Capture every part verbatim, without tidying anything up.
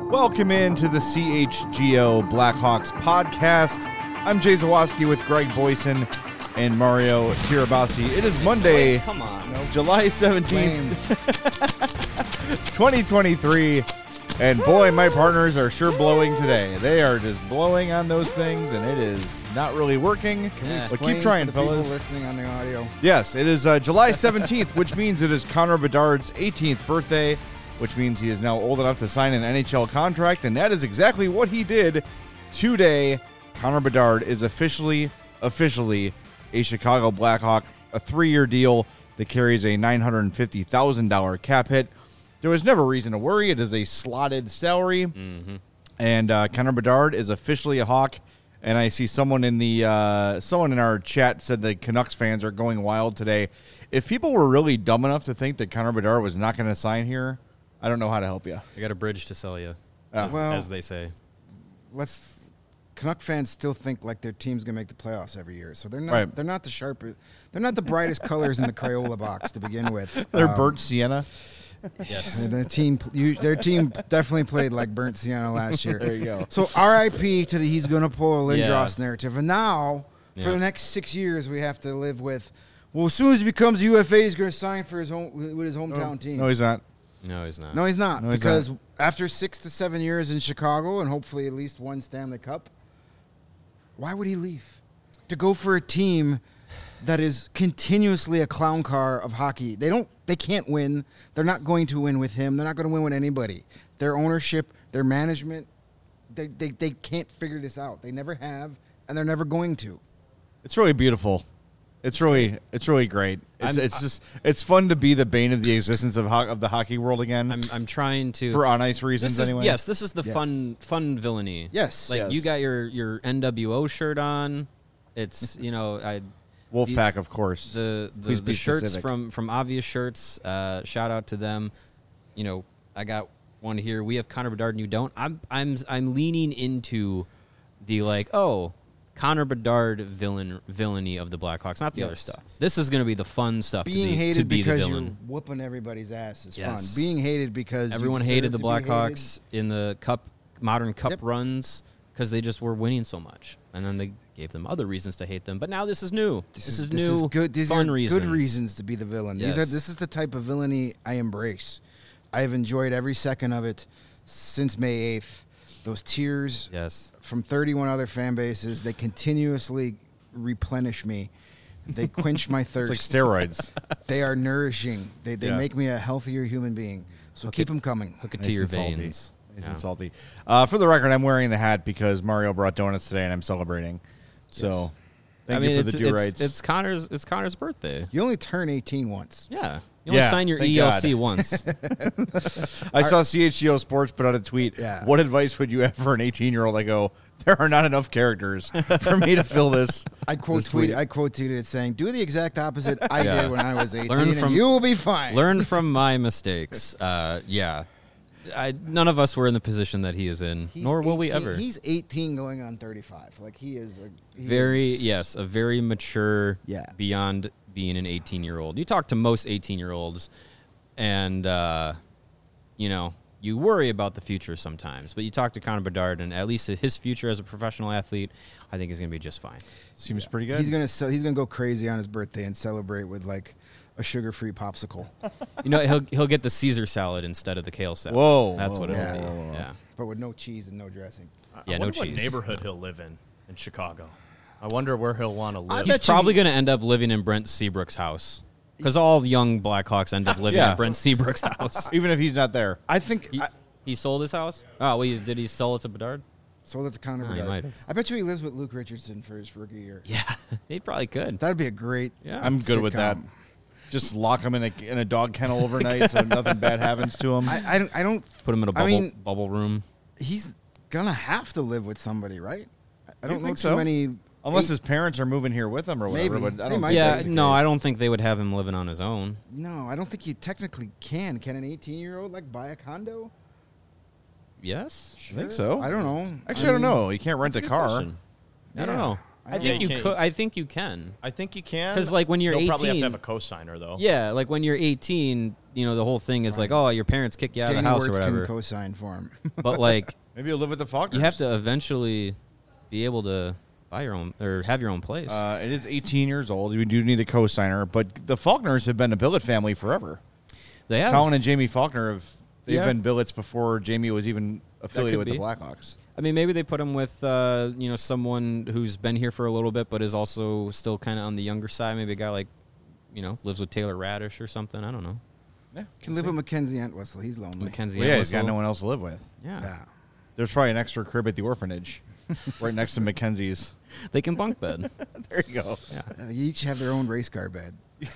Welcome into the C H G O Blackhawks podcast. I'm Jay Zawoski with Greg Boyson and Mario Tirabassi. It is Monday, Boys, come on. nope. July seventeenth, twenty twenty-three. And boy, my partners are sure blowing today. They are just blowing on those things, and it is not really working. Can we Yeah. explain But keep trying, for the fellas. people listening on the audio? Yes, it is uh, July seventeenth, which means it is Connor Bedard's eighteenth birthday, which means he is now old enough to sign an N H L contract, and that is exactly what he did today. Connor Bedard is officially, officially a Chicago Blackhawk, a three-year deal that carries a nine hundred fifty thousand dollars cap hit. There was never reason to worry. It is a slotted salary, Mm-hmm. and uh, Connor Bedard is officially a Hawk. And I see someone in the uh, someone in our chat said the Canucks fans are going wild today. If people were really dumb enough to think that Connor Bedard was not going to sign here, I don't know how to help you. I got a bridge to sell you, Uh, as, Well- as they say. Let's. Canuck fans still think like their team's gonna make the playoffs every year, so they're not. Right. They're not the sharpest. They're not the brightest colors in the Crayola box to begin with. They're Um, burnt sienna. Yes. The team, you, their team definitely played like burnt sienna last year. There you go. So R I P to the he's gonna pull a Lindros Yeah. narrative, and now for Yeah. the next six years we have to live with. Well, as soon as he becomes U F A, he's gonna sign for his home with his hometown team. No, he's not. No, he's not. No, he's not. No, he's because not. after six to seven years in Chicago and hopefully at least one Stanley Cup, why would he leave? To go for a team that is continuously a clown car of hockey. They don't. They can't win. They're not going to win with him. They're not going to win with anybody. Their ownership, their management, they, they, they can't figure this out. They never have, and they're never going to. It's really beautiful. It's really, it's really great. It's, I'm- it's just, it's fun to be the bane of the existence of ho- of the hockey world again. I'm I'm trying to. for on ice reasons, this is, anyway. Yes, this is the Yes. fun fun villainy. Yes. Like Yes. you got your your N W O shirt on. It's you know I Wolfpack, of course. the the, Please the be shirts specific. from from Obvious Shirts. Uh, shout out to them. You know I got one here. We have Connor Bedard and you don't. I'm I'm I'm leaning into the like oh. Connor Bedard villain villainy of the Blackhawks, not the other Yes. stuff. This is going to be the fun stuff. Being to be, hated to be because the you're villain. whooping everybody's ass is Yes. fun. Being hated because you Everyone deserve hated the to be hated. Blackhawks in the cup, modern cup Yep. runs because they just were winning so much, and then they gave them other reasons to hate them. But now this is new. This, is, this new. is good. These fun are reasons. good reasons to be the villain. These are. Yes. This is the type of villainy I embrace. I have enjoyed every second of it since May eighth. Those tears Yes. from thirty-one other fan bases, they continuously replenish me. They quench my It's thirst. like steroids. They are nourishing. They they Yeah. make me a healthier human being. So keep them coming. Hook it Nice to your and salty. veins. Nice Yeah. and salty. Uh, for the record, I'm wearing the hat because Mario brought donuts today, and I'm celebrating. So, Yes. thank I mean, you for it's, the do it's, rights. it's Connor's. It's Connor's birthday. You only turn eighteen once. Yeah. You only Yeah, sign your thank E L C God. once. I saw C H G O Sports put out a tweet. Yeah. What advice would you have for an eighteen-year-old? I go, there are not enough characters for me to fill this. I quote this tweet. tweeted. I quote tweeted it saying, "Do the exact opposite I Yeah. did when I was eighteen, Learn and from- you will be fine." Learn from my mistakes. Uh, yeah. I, none of us were in the position that he is in, He's nor will we eighteen ever. He's eighteen going on thirty-five. Like he is a he Very is- yes, a very mature. Yeah. Beyond being an eighteen-year-old, you talk to most eighteen-year-olds, and uh, you know you worry about the future sometimes. But you talk to Connor Bedard, and at least his future as a professional athlete, I think is going to be just fine. Seems pretty good. He's gonna sell, he's gonna go crazy on his birthday and celebrate with like a sugar-free popsicle, You know, he'll he'll get the Caesar salad instead of the kale salad. Whoa, that's whoa, what it'll whoa, be. whoa, whoa. Yeah. but with no cheese and no dressing. Yeah, I no wonder what cheese. neighborhood he'll live in in Chicago. I wonder where he'll want to I live. He's bet you probably he- going to end up living in Brent Seabrook's house because all young Blackhawks end up living Yeah. in Brent Seabrook's house. Even if he's not there. I think He, I, he sold his house? Oh, well, he, did he sell it to Bedard? sold it to Connor Oh, he Bedard. might have. I bet you he lives with Luke Richardson for his rookie year. Yeah, he probably could. That'd be a great. Yeah. I'm good with that. sitcom. Just lock him in a in a dog kennel overnight so nothing bad happens to him. I, I don't. I don't. Put him in a I bubble mean- bubble room. He's gonna have to live with somebody, right? I- I don't know think too so? many. Unless eight- his parents are moving here with him or whatever. Maybe. But I They don't might think Yeah, that's the no, case. I don't think they would have him living on his own. No, I don't think you technically can. Can an eighteen-year-old like buy a condo? Yes? I think so. I don't know. Actually, I, don't mean, know. You can't rent a Good car. question. I don't Yeah. know. I I, don't think know. you Yeah, could. I think you can. I think you can. 'Cause, like, when you're You'll probably have to eighteen have a cosigner, though. Yeah, like when you're eighteen, you know, the whole thing is like, oh, your parents kick you out Danny of the house Wirtz or whatever. can co-sign for him. But like, Maybe you'll live with the Faulkners. you have to eventually be able to buy your own or have your own place. Uh, it is eighteen years old. You do need a co-signer, but the Faulkners have been a billet family forever. they have. Colin and Jamie Faulkner have they've Yeah. been billets before Jamie was even affiliated with be. the Blackhawks. I mean, maybe they put him with, uh, you know, someone who's been here for a little bit, but is also still kind of on the younger side. Maybe a guy like, you know, lives with Taylor Radish or something. I don't know. Yeah, Can live with Mackenzie Entwistle. He's lonely. Mackenzie. Well, yeah, he's got Entwistle. no one else to live with. Yeah. Yeah. There's probably an extra crib at the orphanage, right next to Mackenzie's. They can bunk bed. There you go. Yeah. Uh, you each have their own race car bed.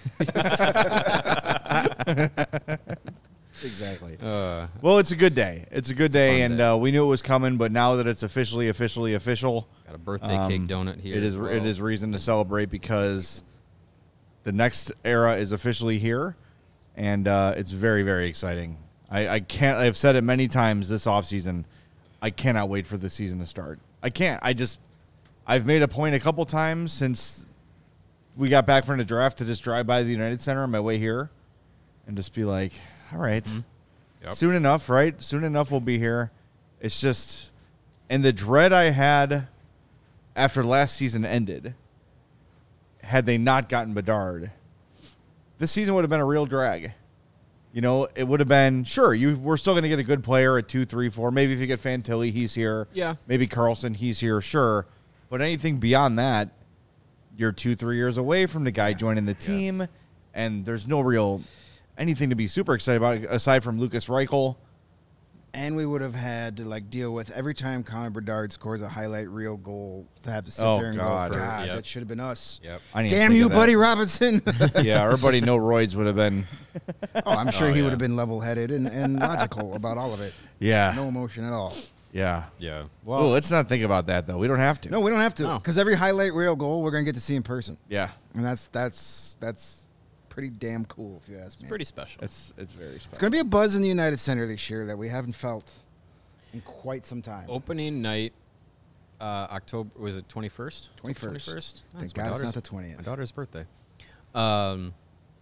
Exactly. Uh, Well, it's a good day. It's a good day, fun and day. Uh, we knew it was coming, but now that it's officially, officially, official, got a birthday um, cake donut here. It is. as well. It is reason to celebrate because the next era is officially here, and uh, it's very, very exciting. I, I can't. I've said it many times this offseason. I cannot wait for the season to start. I can't. I just. I've made a point a couple times since we got back from the draft to just drive by the United Center on my way here, and just be like, all right. Yep. Soon enough, right? Soon enough we'll be here. It's just, and the dread I had after last season ended, had they not gotten Bedard, this season would have been a real drag. You know, it would have been, sure, you we're still going to get a good player at two, three, four. Maybe if you get Fantilli, he's here. Yeah. Maybe Carlson, he's here, sure. But anything beyond that, you're two, three years away from the guy joining the team, and there's no real anything to be super excited about aside from Lucas Reichel. And we would have had to like deal with every time Connor Bedard scores a highlight reel goal to have to sit Oh, there and God. go, God, Yep. that should have been us. Yep. I didn't even Damn think you, of that. Buddy Robinson. Yeah, our buddy No Roids would have been. Oh, I'm sure Oh, he yeah. would have been level-headed and, and logical about all of it. Yeah, No emotion at all. yeah. Yeah. Well, Well, let's not think about that though. We don't have to. No, we don't have to, No. because every highlight reel goal we're gonna get to see in person, Yeah, and that's that's that's pretty damn cool if you ask me. pretty special. it's it's very special. It's gonna be a buzz in the United Center this year that we haven't felt in quite some time. Opening night, uh, October, was it twenty-first? twenty-first. twenty-first? Thank God it's not the twentieth. My daughter's birthday. Um,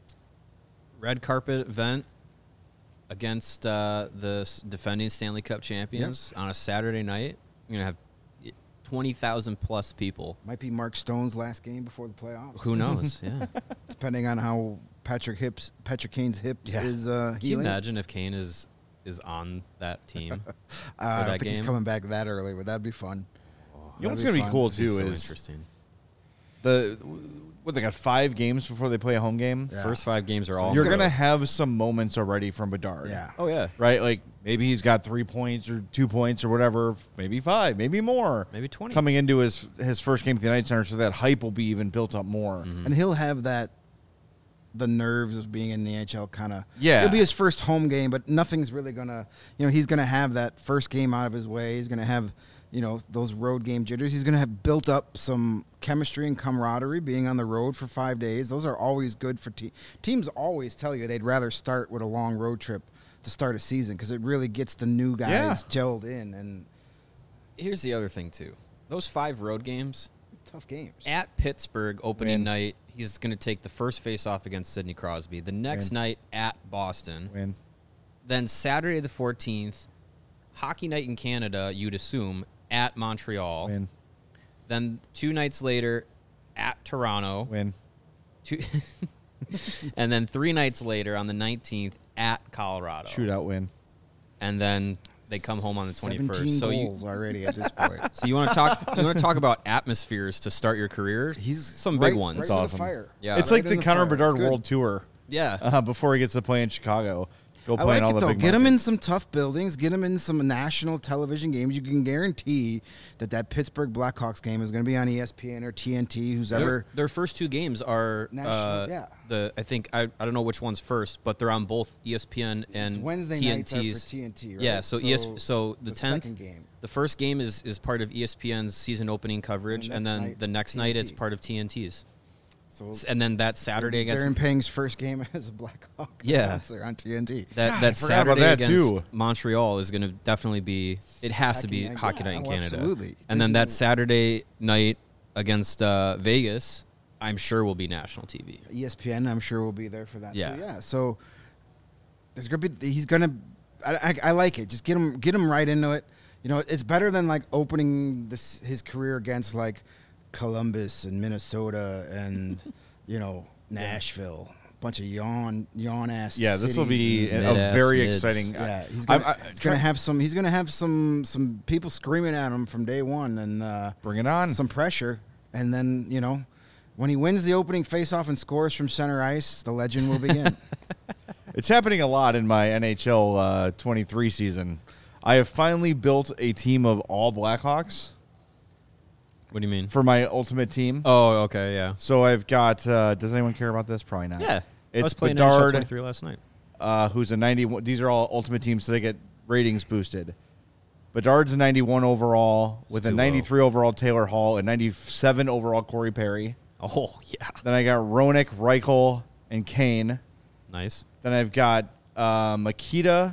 red carpet event against uh, the s- defending Stanley Cup champions on a Saturday night. You're going to have twenty thousand plus people. Might be Mark Stone's last game before the playoffs. Who knows? Yeah. Depending on how Patrick hips, Patrick Kane's hips Yeah. is uh, Can you healing. imagine if Kane is is on that team? Uh, I for don't that think he's game? coming back that early, but that'd be fun. You know what's That'd gonna be be cool fun. too so is interesting. the what they got five games before they play a home game. Yeah. First five games are all. You're gonna- gonna have some moments already from Bedard. Yeah. Oh yeah, Right, like maybe he's got three points or two points or whatever, maybe five, maybe more. maybe twenty. Coming into his his first game at the United Center, so that hype will be even built up more. Mm-hmm. And he'll have that, the nerves of being in the N H L kind of. Yeah. It'll be his first home game, but nothing's really going to, you know, he's going to have that first game out of his way. He's going to have, you know, those road game jitters. He's going to have built up some chemistry and camaraderie being on the road for five days. Those are always good for te- teams. Always tell you they'd rather start with a long road trip to start a season because it really gets the new guys Yeah. gelled in, and Here's the other thing too. Those five road games tough games. at Pittsburgh opening Win. night. He's going to take the first face-off against Sidney Crosby. The next Win. night at Boston. Win. Then Saturday the fourteenth, hockey night in Canada, you'd assume, at Montreal. Win. Then two nights later at Toronto. Win. Two and then three nights later on the nineteenth at Colorado. Shootout win. And then they come home on the seventeen twenty-first. So you goals already at this point. so you want to talk you want to talk about atmospheres to start your career? He's some right, big ones. Right It's with awesome. the fire. Yeah. It's Right like in the the Connor fire. Bedard It's good. World Tour Yeah. uh, before he gets to play in Chicago. Go I play like in all it the though. big Get him in markets. some tough buildings. Get him in some national television games. You can guarantee that that Pittsburgh Blackhawks game is going to be on E S P N or T N T. Who's Their, ever their first two games are National- uh, yeah. the I think I, I don't know which one's first, but they're on both E S P N and it's Wednesday T N nights are T's. for T N T, right? Yeah, so, E S, so the tenth, second game. the first game is, is part of E S P N's season opening coverage, And and, the next then night, the next T N T. night it's part of T N T's. So And then that Saturday against Darren Pang's first game as a Blackhawk. Yeah. announcer on T N T. that God, I that forgot about Saturday that, against too. Montreal is going to definitely be. It has to be Hockey night, hockey yeah, night in oh, Canada. absolutely. And then There's that no- Saturday night against uh, Vegas, I'm sure will be national T V. E S P N, I'm sure, will be there for that Yeah. too. Yeah. So there's gonna be he's gonna. I, I, I like it. Just get him get him right into it. You know, it's better than like opening this his career against like Columbus and Minnesota and you know Nashville. Bunch of yawn yawn ass. Yeah, this will be and a mid-ass very mids. exciting. Yeah, he's I- gonna, I- he's gonna have some. He's gonna have some some people screaming at him from day one, and uh, Bring it on. some pressure. And then you know, when he wins the opening faceoff and scores from center ice, the legend will begin. It's happening a lot in my N H L uh, twenty-three season. I have finally built a team of all Blackhawks What do you mean? for my ultimate team. Oh, okay, yeah. So I've got. Uh, does anyone care about this? Probably not. Yeah. I It's was playing N H L Bedard, twenty-three last night. uh, who's a ninety-one. These are all ultimate teams, so they get ratings boosted. Bedard's a ninety-one overall with It's a too ninety-three overall Taylor Hall, a ninety-seven overall Corey Perry. Oh, yeah. Then I got Roenick, Reichel, and Kane. Nice. Then I've got uh, Makita,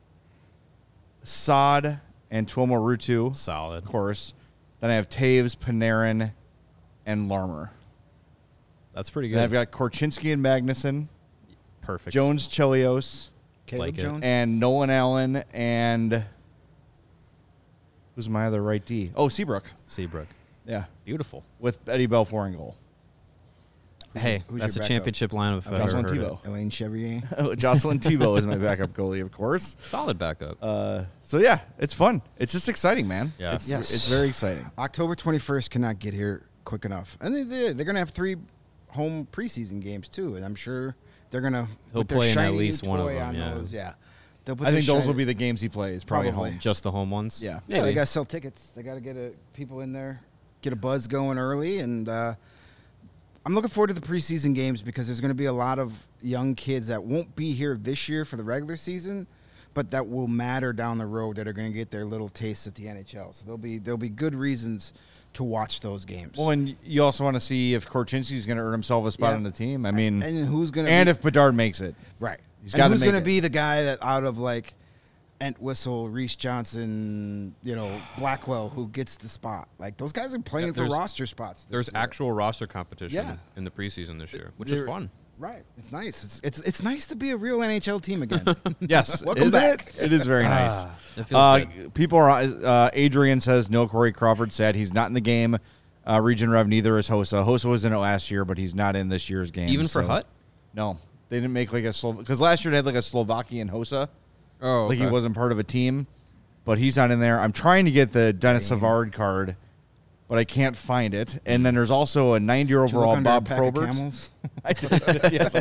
Saad, and Tuomo Rutu, Solid. of course. Then I have Taves, Panarin, and Larmer. That's pretty Then I've good. got Korchinski and Magnuson, Perfect. Jones, Chelios, Caleb Like it. Jones. and Nolan Allen, and who's my other right D? Oh, Seabrook. Seabrook. Yeah, Beautiful. with Eddie Belfour in goal. Hey, who's that's a your backup? championship lineup if I've ever Jocelyn heard it. Thibault. Elaine Chevrier. Jocelyn Thibault is my backup goalie, of course. Solid backup. Uh, so yeah, it's fun. It's just exciting, man. Yeah. it's, Yes. it's very exciting. October twenty-first cannot get here quick enough, and they, they they're gonna have three home preseason games too, and I'm sure they're gonna He'll put their play in at shiny least new one of toy them, on yeah. those. Yeah, they'll put I their think those shiny- will be the games he plays, probably, at Probably. home. Just the home ones? Yeah. Yeah, they Maybe. got to sell tickets. They got to get a, people in there, get a buzz going early, and uh, I'm looking forward to the preseason games because there's going to be a lot of young kids that won't be here this year for the regular season, but that will matter down the road that are going to get their little tastes at the N H L. So there'll be there'll be good reasons to watch those games. Well, and you also want to see if Korchinski's going to earn himself a spot Yeah. on the team. I mean, and, and who's going to and be, if Bedard makes it, right, he's and gotta who's make going to it. be the guy that out of like Entwistle, Reese Johnson, you know, Blackwell, who gets the spot. Like those guys are playing Yeah, for there's- roster spots. this There's year. actual roster competition Yeah. in the preseason this year, which is There- fun. Right. It's nice. It's it's it's nice to be a real N H L team again. yes, Welcome isn't back. It? it is very nice. It feels Uh, good. people are. Uh, Adrian says no. Corey Crawford said he's not in the game. Uh, Region Rev neither is Hossa. Hossa was in it last year, but he's not in this year's game. Even for so- Hut? No, they didn't make like a Slo because last year they had like a Slovakian Hossa. Oh, Like he okay. wasn't part of a team, but he's not in there. I'm trying to get the Dennis Savard card, but I can't find it. And then there's also a ninety-year Did you look overall under a Bob pack of Probert. Camels? I did. Yes, I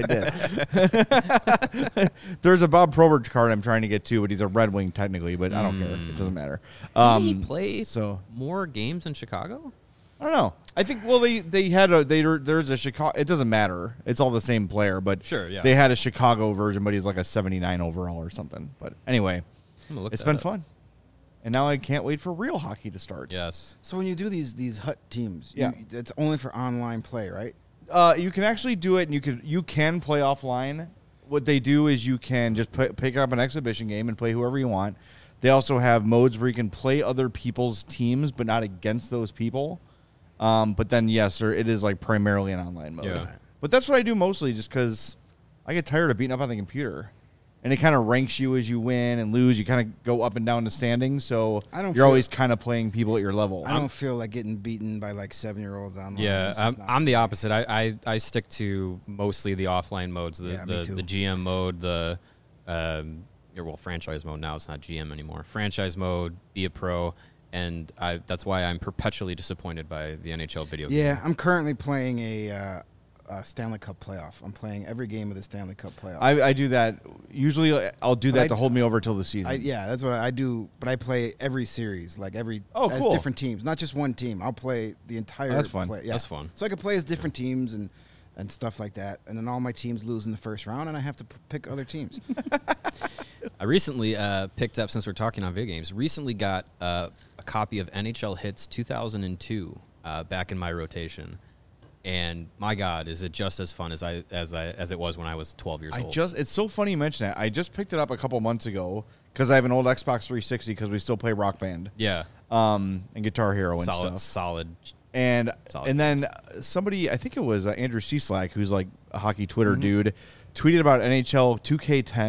did. There's a Bob Probert card I'm trying to get too, but he's a Red Wing technically, but I don't care. It doesn't matter. Um, Did he play so more games in Chicago? I don't know. I think well they they had a they there's a Chicago. It doesn't matter. It's all the same player, but Sure, yeah. they had a Chicago version, but he's like a seventy-nine overall or something. But anyway, I'm gonna look it's that been up. fun, and now I can't wait for real hockey to start. Yes. So when you do these these hut teams, Yeah. you, it's only for online play, right? Uh, you can actually do it, and you can you can play offline. What they do is you can just p- pick up an exhibition game and play whoever you want. They also have modes where you can play other people's teams, but not against those people. Um, but then yes, sir, it is like primarily an online mode. Yeah. But that's what I do mostly, just because I get tired of beating up on the computer, and it kind of ranks you as you win and lose. You kind of go up and down the standings, so I don't you're feel- always kind of playing people at your level. I don't feel like getting beaten by like seven year olds online. Yeah, It's I'm, just not- I'm the opposite. I, I, I stick to mostly the offline modes, the Yeah, me the, too. the G M mode, the um, or well franchise mode. Now it's not G M anymore. Franchise mode, be a pro, and I that's why I'm perpetually disappointed by the N H L video game. Yeah, I'm currently playing a, uh, a Stanley Cup playoff. I'm playing every game of the Stanley Cup playoff. I, I do that. Usually, I'll do But that I- to hold me over till the season. I, yeah, that's what I do. But I play every series, like every Oh, as cool. different teams, not just one team. I'll play the entire. Oh, that's fun. Play, yeah. That's fun. So I can play as different teams and and stuff like that. And then all my teams lose in the first round, and I have to p- pick other teams. I recently uh, picked up, since we're talking on video games, recently got uh, a copy of N H L Hits two thousand two uh, back in my rotation. And my God, is it just as fun as I as I as it was when I was twelve years I old? just it's so funny you mention that. I just picked it up a couple months ago because I have an old Xbox three sixty because we still play Rock Band, yeah, um, and Guitar Hero and solid, stuff. solid. And Solid and then games. somebody, I think it was uh, Andrew Cieslak, who's like a hockey Twitter Mm-hmm. dude, tweeted about N H L two K ten,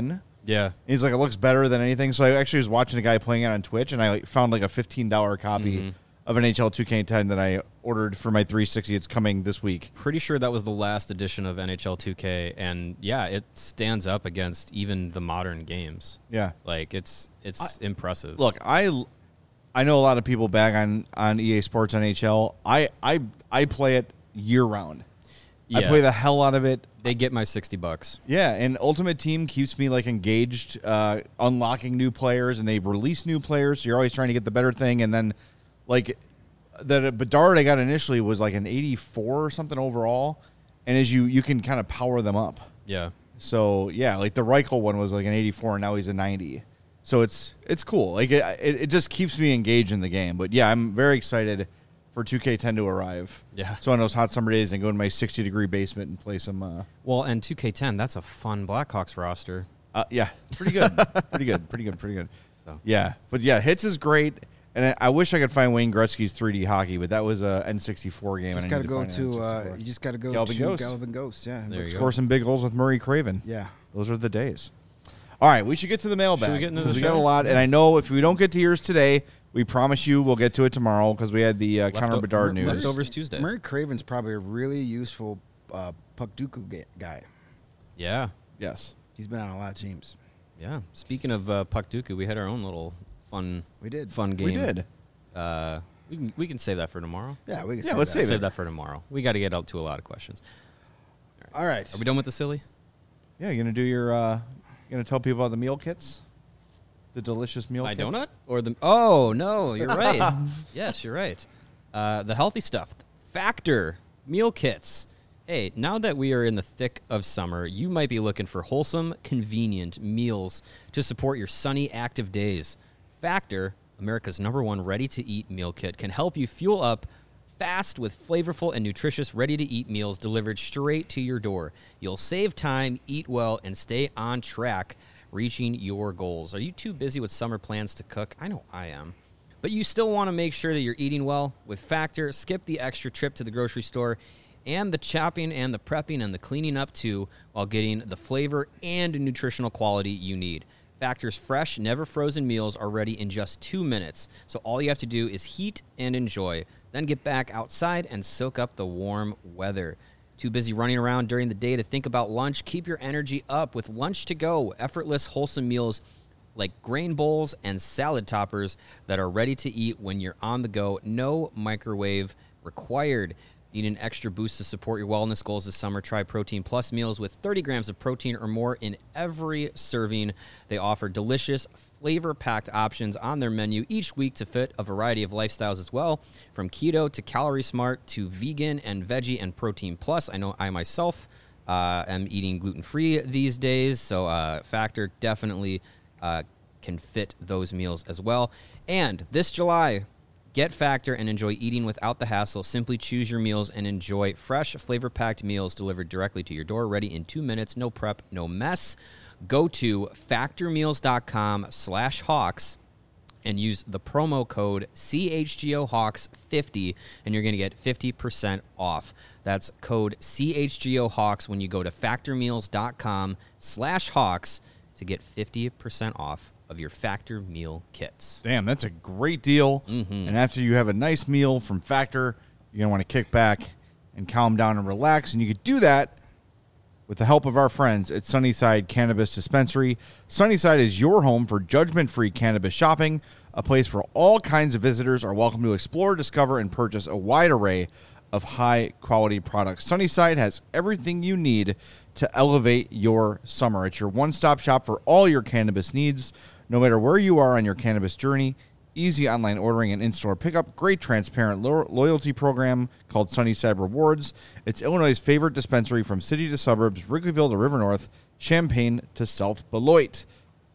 Yeah. And he's like, it looks better than anything. So I actually was watching a guy playing it on Twitch, and I like, found like a fifteen dollars copy Mm-hmm. of N H L two K ten that I ordered for my three sixty. It's coming this week. Pretty sure that was the last edition of N H L two K, and yeah, it stands up against even the modern games. Yeah. Like it's it's impressive. Look, I I know a lot of people bag on, on E A Sports N H L. I I I play it year round. I Yeah. play the hell out of it. They get my sixty bucks. Yeah, and Ultimate Team keeps me like engaged, uh, unlocking new players, and they release new players. So you're always trying to get the better thing, and then like the Bedard I got initially was like an eighty-four or something overall, and as you you can kind of power them up. Yeah. So yeah, like the Reichel one was like an eighty-four, and now he's a ninety. So it's it's cool. Like it, it, it just keeps me engaged in the game. But yeah, I'm very excited for two K ten to arrive. Yeah. So on those hot summer days, and go in my sixty degree basement and play some. Uh, Well, and two K ten, that's a fun Blackhawks roster. uh, yeah, pretty good, pretty good, pretty good, pretty good. So. Yeah, but yeah, hits is great. And I, I wish I could find Wayne Gretzky's three D hockey, but that was a N sixty-four game. Just and I got to need go find an to. Uh, N sixty-four. you just got to go Galvin to Ghost. Galvin Ghost. Yeah. There you go. Score some big goals with Murray Craven. Yeah. Those are the days. All right, we should get to the mailbag. Should we get into the we show? got a lot, and I know if we don't get to yours today, we promise you we'll get to it tomorrow because we had the uh, Connor Lefto- Bedard news. Leftovers Tuesday. Murray Craven's probably a really useful uh, puck Dooku ga- guy. Yeah. Yes. He's been on a lot of teams. Yeah. Speaking of uh, Puck Dooku, we had our own little fun We did. fun game. We did. Uh, we can we can save that for tomorrow. Yeah, we can Yeah, say let's that. save Save it. that for tomorrow. We got to get out to a lot of questions. All right. Are we done with the silly? Yeah, you gonna do your? Uh, you gonna tell people about the meal kits, the delicious meal My kits? donut or the? Oh no, you're right. Yes, you're right. Uh, the healthy stuff, Factor meal kits. Hey, now that we are in the thick of summer, you might be looking for wholesome, convenient meals to support your sunny, active days. Factor, America's number one ready-to-eat meal kit, can help you fuel up fast with flavorful and nutritious ready-to-eat meals delivered straight to your door. You'll save time, eat well, and stay on track reaching your goals. Are you too busy with summer plans to cook? I know I am. But you still want to make sure that you're eating well? With Factor, skip the extra trip to the grocery store and the chopping and the prepping and the cleaning up too, while getting the flavor and nutritional quality you need. Factor's fresh, never frozen meals are ready in just two minutes. So all you have to do is heat and enjoy. Then get back outside and soak up the warm weather. Too busy running around during the day to think about lunch? Keep your energy up with Lunch to Go, effortless, wholesome meals like grain bowls and salad toppers that are ready to eat when you're on the go. No microwave required. Need an extra boost to support your wellness goals this summer? Try Protein Plus meals with thirty grams of protein or more in every serving. They offer delicious, flavor-packed options on their menu each week to fit a variety of lifestyles as well, from keto to calorie smart to vegan and veggie and Protein Plus. I know I myself uh, am eating gluten-free these days, so uh, Factor definitely uh, can fit those meals as well. And this July, get Factor and enjoy eating without the hassle. Simply choose your meals and enjoy fresh, flavor-packed meals delivered directly to your door, ready in two minutes. No prep, no mess. Go to factormeals.com slash Hawks and use the promo code C H G O Hawks fifty, and you're going to get fifty percent off. That's code C H G O Hawks when you go to factormeals.com slash Hawks to get fifty percent off of your Factor meal kits. Damn, that's a great deal. Mm-hmm. And after you have a nice meal from Factor, you're going to want to kick back and calm down and relax. And you could do that with the help of our friends at Sunnyside Cannabis Dispensary. Sunnyside is your home for judgment-free cannabis shopping, a place where all kinds of visitors are welcome to explore, discover, and purchase a wide array of high-quality products. Sunnyside has everything you need to elevate your summer. It's your one-stop shop for all your cannabis needs. No matter where you are on your cannabis journey, easy online ordering and in-store pickup, great transparent lo- loyalty program called Sunnyside Rewards. It's Illinois' favorite dispensary from city to suburbs, Wrigleyville to River North, Champaign to South Beloit.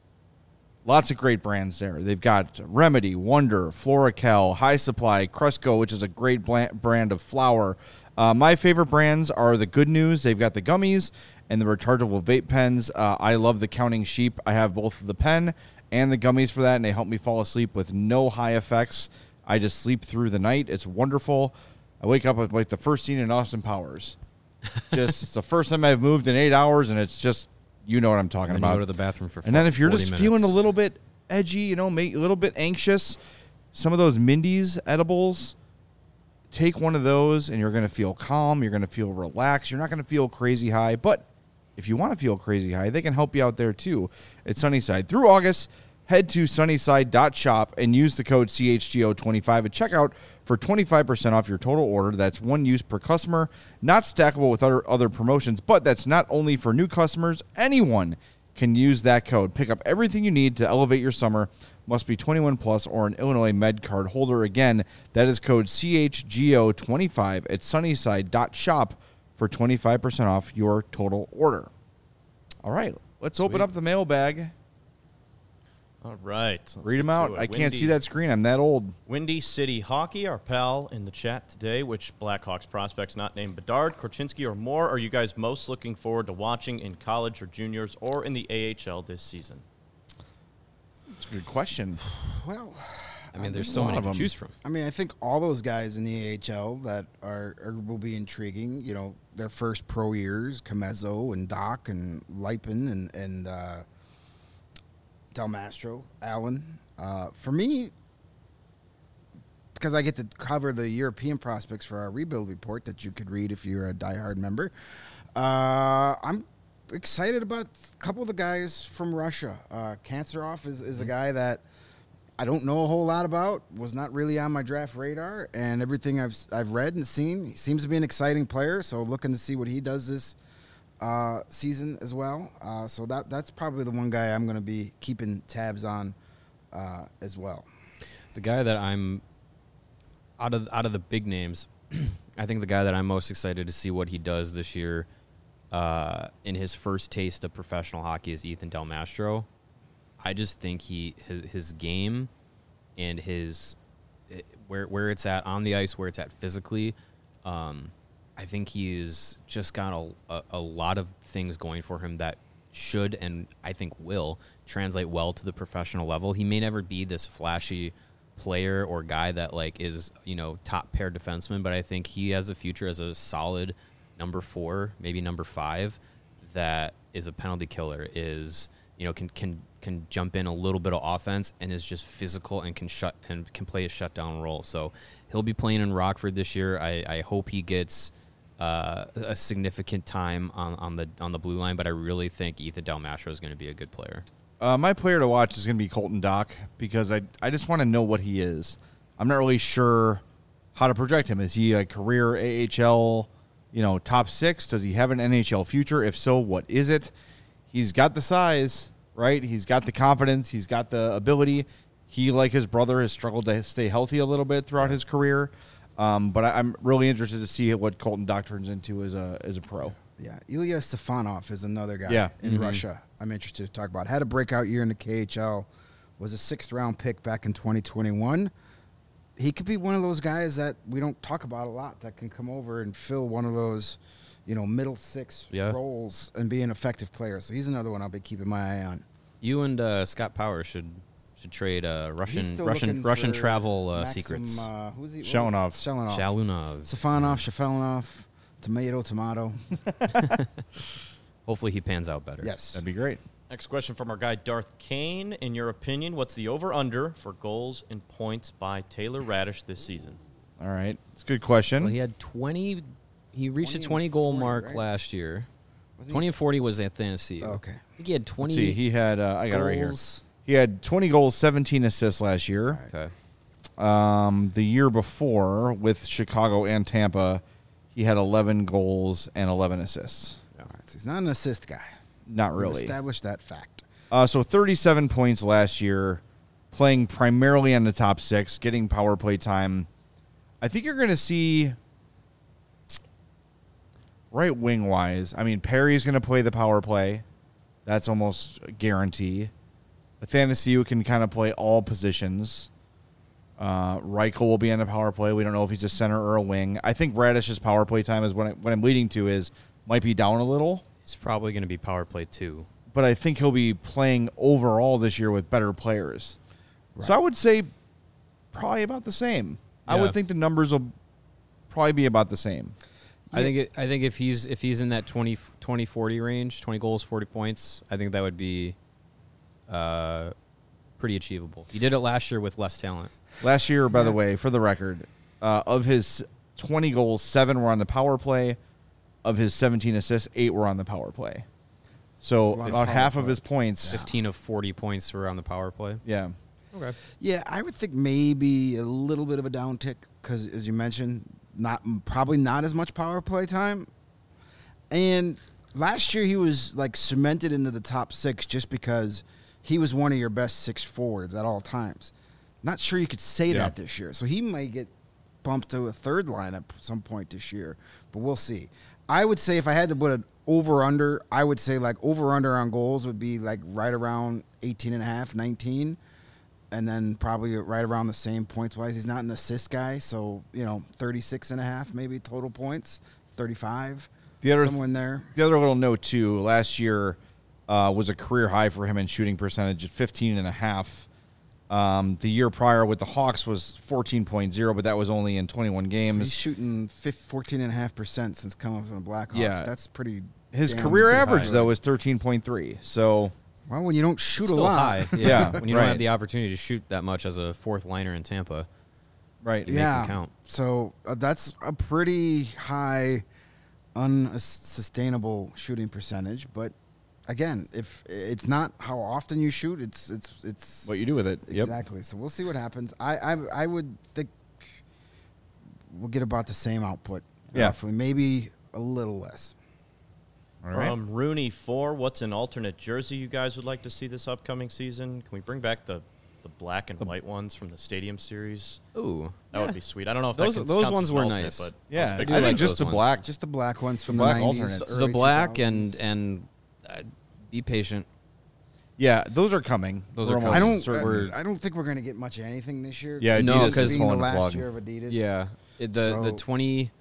Lots of great brands there. They've got Remedy, Wonder, Floracal, High Supply, Cresco, which is a great bla- brand of flour. Uh, my favorite brands are the Good News. They've got the gummies and the rechargeable vape pens. Uh, I love the Counting Sheep. I have both the pen and the gummies for that, and they help me fall asleep with no high effects. I just sleep through the night. It's wonderful. I wake up with like the first scene in Austin Powers. Just it's the first time I've moved in eight hours, and it's just You know what I'm talking And then about. you go to the bathroom for and then if you're forty just minutes. feeling a little bit edgy, you know, make, a little bit anxious, some of those Mindy's edibles, take one of those and you're going to feel calm. You're going to feel relaxed. You're not going to feel crazy high. But if you want to feel crazy high, they can help you out there too at Sunnyside. Through August, head to sunnyside dot shop and use the code C H G O twenty-five at checkout for twenty-five percent off your total order. That's one use per customer, not stackable with other, other promotions, but that's not only for new customers. Anyone can use that code. Pick up everything you need to elevate your summer. Must be twenty-one plus or an Illinois Med card holder. Again, that is code C H G O twenty-five at sunnyside dot shop for twenty-five percent off your total order. All right, let's open Sweet. up the mailbag. All right. let's Read get them to out. it. I can't Windy- see that screen. I'm that old. Windy City Hockey, our pal in the chat today. Which Blackhawks prospects not named Bedard, Korchinski, or more are you guys most looking forward to watching in college or juniors or in the A H L this season? That's a good question. Well, I mean, there's so lot many of to them. choose from. I mean, I think all those guys in the A H L that are, are will be intriguing. You know, their first pro years, Camezzo and Doc and Lipin and and uh, Del Mastro, Allen. Uh, for me, because I get to cover the European prospects for our rebuild report that you could read if you're a diehard member, uh, I'm excited about a couple of the guys from Russia. Uh, Kancerov is, is a guy that I don't know a whole lot about, was not really on my draft radar, and everything I've I've read and seen, he seems to be an exciting player, so looking to see what he does this uh, season as well. Uh, so that that's probably the one guy I'm going to be keeping tabs on uh, as well. The guy that I'm out of out of the big names, I think the guy that I'm most excited to see what he does this year uh, in his first taste of professional hockey is Ethan Del Mastro. I just think he his, his game and his where where it's at on the ice, where it's at physically. Um, I think he's just got a, a, a lot of things going for him that should and I think will translate well to the professional level. He may never be this flashy player or guy that like is, you know, top pair defenseman, but I think he has a future as a solid number four, maybe number five, that is a penalty killer, is, you know, can can can jump in a little bit of offense and is just physical and can shut and can play a shutdown role. So he'll be playing in Rockford this year. I, I hope he gets uh, a significant time on, on the on the blue line, but I really think Ethan Del Mastro is going to be a good player. Uh, my player to watch is going to be Colton Dock because I I just want to know what he is. I'm not really sure how to project him. Is he a career A H L, you know, top six? Does he have an N H L future? If so, what is it? He's got the size, right? He's got the confidence. He's got the ability. He, like his brother, has struggled to stay healthy a little bit throughout his career. Um, but I, I'm really interested to see what Colton Dock turns into as a as a pro. Yeah, Ilya Stefanov is another guy Yeah. in Mm-hmm. Russia I'm interested to talk about. Had a breakout year in the K H L, was a sixth round pick back in twenty twenty-one. He could be one of those guys that we don't talk about a lot that can come over and fill one of those, you know, middle six Yeah. roles and be an effective player. So he's another one I'll be keeping my eye on. You and uh, Scott Power should should trade uh, He's Russian still Russian looking Russian for travel uh, Maxim, secrets. Uh, who's he? Shalanov. Shalanov. Shalunov. Stefanov, Shafelinov, tomato, tomato. Hopefully he pans out better. Yes. That'd be great. Next question from our guy Darth Kane. In your opinion, what's the over-under for goals and points by Taylor Radish this season? All right. It's a good question. Well, he had twenty. He reached twenty the and twenty goal forty, mark right? last year. Was he- Twenty and forty was at Tennessee. Oh, okay. I think he had twenty. Let's see, he had, uh, I got it right here. goals. He had twenty goals, seventeen assists last year. Okay. Um, the year before, with Chicago and Tampa, he had eleven goals and eleven assists. All right, so he's not an assist guy. Not We've really. established that fact. Uh, so thirty-seven points last year, playing primarily on the top six, getting power play time. I think you're going to see right wing wise. I mean, Perry's going to play the power play. That's almost a guarantee. Athanasiou can kind of play all positions. Uh, Reichel will be on the power play. We don't know if he's a center or a wing. I think Radish's power play time is what, I, what I'm leading to is might be down a little. He's probably going to be power play two. But I think he'll be playing overall this year with better players. So I would say probably about the same. I Yeah. would think the numbers will probably be about the same. I think it, I think if he's if he's in that twenty, twenty, forty range, twenty goals, forty points, I think that would be uh, pretty achievable. He did it last year with less talent. Last year, by Yeah. the way, for the record, uh, of his twenty goals, seven were on the power play. Of his seventeen assists, eight were on the power play. So A lot of about power half play. of his points. fifteen of forty points were on the power play. Yeah. Okay. Yeah, I would think maybe a little bit of a downtick because, as you mentioned, not probably not as much power play time. And last year he was like cemented into the top six just because he was one of your best six forwards at all times. Not sure you could say Yeah. that this year, so he may get bumped to a third lineup at some point this year, but we'll see. I would say if I had to put an over under, I would say like over under on goals would be like right around eighteen and a half, nineteen. And then probably right around the same points wise. He's not an assist guy, so, you know, thirty-six and a half maybe total points, thirty-five, The other somewhere in there. The other little note, too, last year uh, was a career high for him in shooting percentage at fifteen and a half. Um, the year prior with the Hawks was fourteen point oh, but that was only in twenty-one So games. he's shooting fourteen and a half percent since coming from the Blackhawks. Yeah. That's pretty. His damn- career pretty average, high. though, is thirteen point three. So, Well, when you don't shoot Still a lot. high. Yeah. Yeah, When you right. don't have the opportunity to shoot that much as a fourth liner in Tampa. right. You make Yeah. them count. So uh, that's a pretty high, unsustainable shooting percentage. But again, if it's not how often you shoot, it's it's it's What you do with it. Yep. exactly. So we'll see what happens. I I, I would think we'll get about the same output. Yeah. Roughly, maybe a little less. All right. From Rooney four, what's an alternate jersey you guys would like to see this upcoming season? Can we bring back the, the black and white ones from the Stadium Series? Ooh. That would be sweet. I don't know if Those- that counts those as ones an were alternate, nice. But Yeah, I was I big do think like just those the ones. black. Just the black ones from Black the nineties, alternates. early The black and two thousands. and uh, be patient. Yeah, those are coming. Those We're are almost I don't. certain- I, I don't think we're going to get much of anything this year. Yeah, No, Adidas is because- being the pulling the last plug. year of Adidas. Yeah. It, the the So- twenty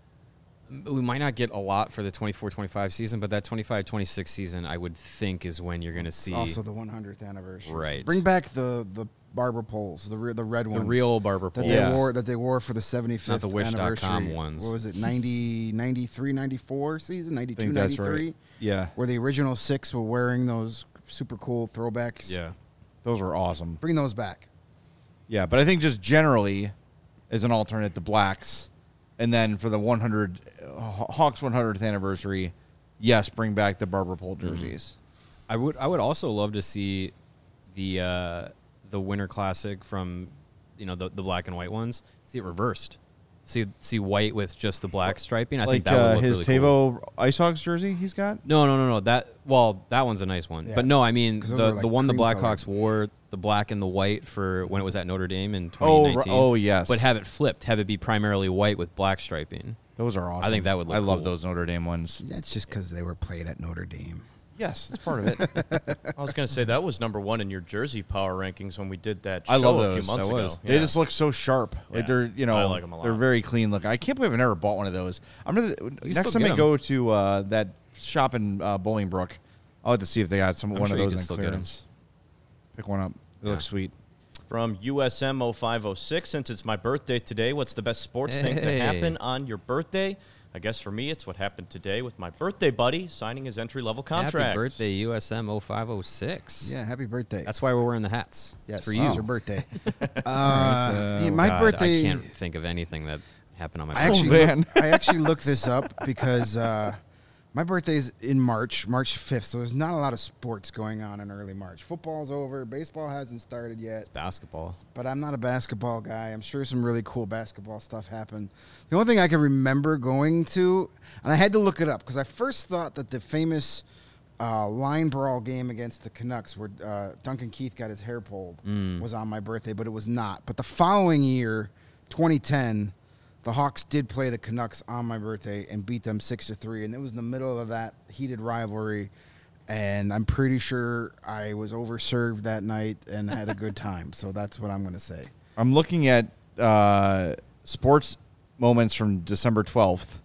we might not get a lot for the twenty-four twenty-five season, but that twenty-five twenty-six season I would think is when you're going to see Also the one hundredth anniversary. Right. Bring back the the barber poles, the re- the red the ones. real barber that pole. they Yeah. wore that they wore for the seventy-fifth Not the wish dot com anniversary. ones. What was it? ninety, ninety-three, ninety-four season, I ninety-two, think that's ninety-three, right. Yeah, where the original six were wearing those super cool throwbacks. Yeah. those were awesome. Bring those back. Yeah, but I think just generally, as an alternate, the blacks, and then for the one hundred uh, Hawks one hundredth anniversary, yes, bring back the barber pole jerseys. I would I would also love to see the uh, the Winter Classic from you know the, the black and white ones. See it reversed. See see white with just the black striping. I Like think that would uh, look his really cool. Tavo Ice Hogs jersey he's got. No, no, no, no. That well, that one's a nice one. Yeah. But no, I mean 'Cause those the were, like, the one the cream Blackhawks colored. wore the black and the white for when it was at Notre Dame in Oh, twenty ri- nineteen. oh, yes. But have it flipped. Have it be primarily white with black striping. Those are awesome. think that would look I love cool. those Notre Dame ones. That's just because they were played at Notre Dame. Yes, it's part of it. I was going to say that was number one in your jersey power rankings when we did that show I love a those. few months That ago. was. They Yeah. just look so sharp. Like Yeah. they're, you know, I like 'em a lot. they're very clean looking. I can't believe I've never bought one of those. I'm gonna next still time get I 'em. go to uh, that shop in uh, Bolingbrook, I'll have to see if they got some I'm one sure of you those can in still get 'em. clearance. Pick one up. They look Yeah. sweet. From U S M oh five oh six, since it's my birthday today, what's the best sports thing to Hey. happen on your birthday? I guess for me, it's what happened today with my birthday buddy signing his entry-level contract. Happy birthday, U S M oh five oh six. Yeah, happy birthday. That's why we're wearing the hats. yes, For you. It's your birthday. uh, uh, yeah, my God, birthday. I can't think of anything that happened on my I birthday. actually, man. look- I actually looked this up because uh, my birthday is in March, March fifth. So there's not a lot of sports going on in early March. Football's over. Baseball hasn't started yet. Basketball. But I'm not a basketball guy. I'm sure some really cool basketball stuff happened. The only thing I can remember going to, and I had to look it up because I first thought that the famous uh, line brawl game against the Canucks, where uh, Duncan Keith got his hair pulled, Mm. was on my birthday, but it was not. But the following year, twenty ten, the Hawks did play the Canucks on my birthday and beat them six to three, and it was in the middle of that heated rivalry. And I'm pretty sure I was overserved that night and had a good time. So that's what I'm going to say. I'm looking at uh, sports moments from December twelfth.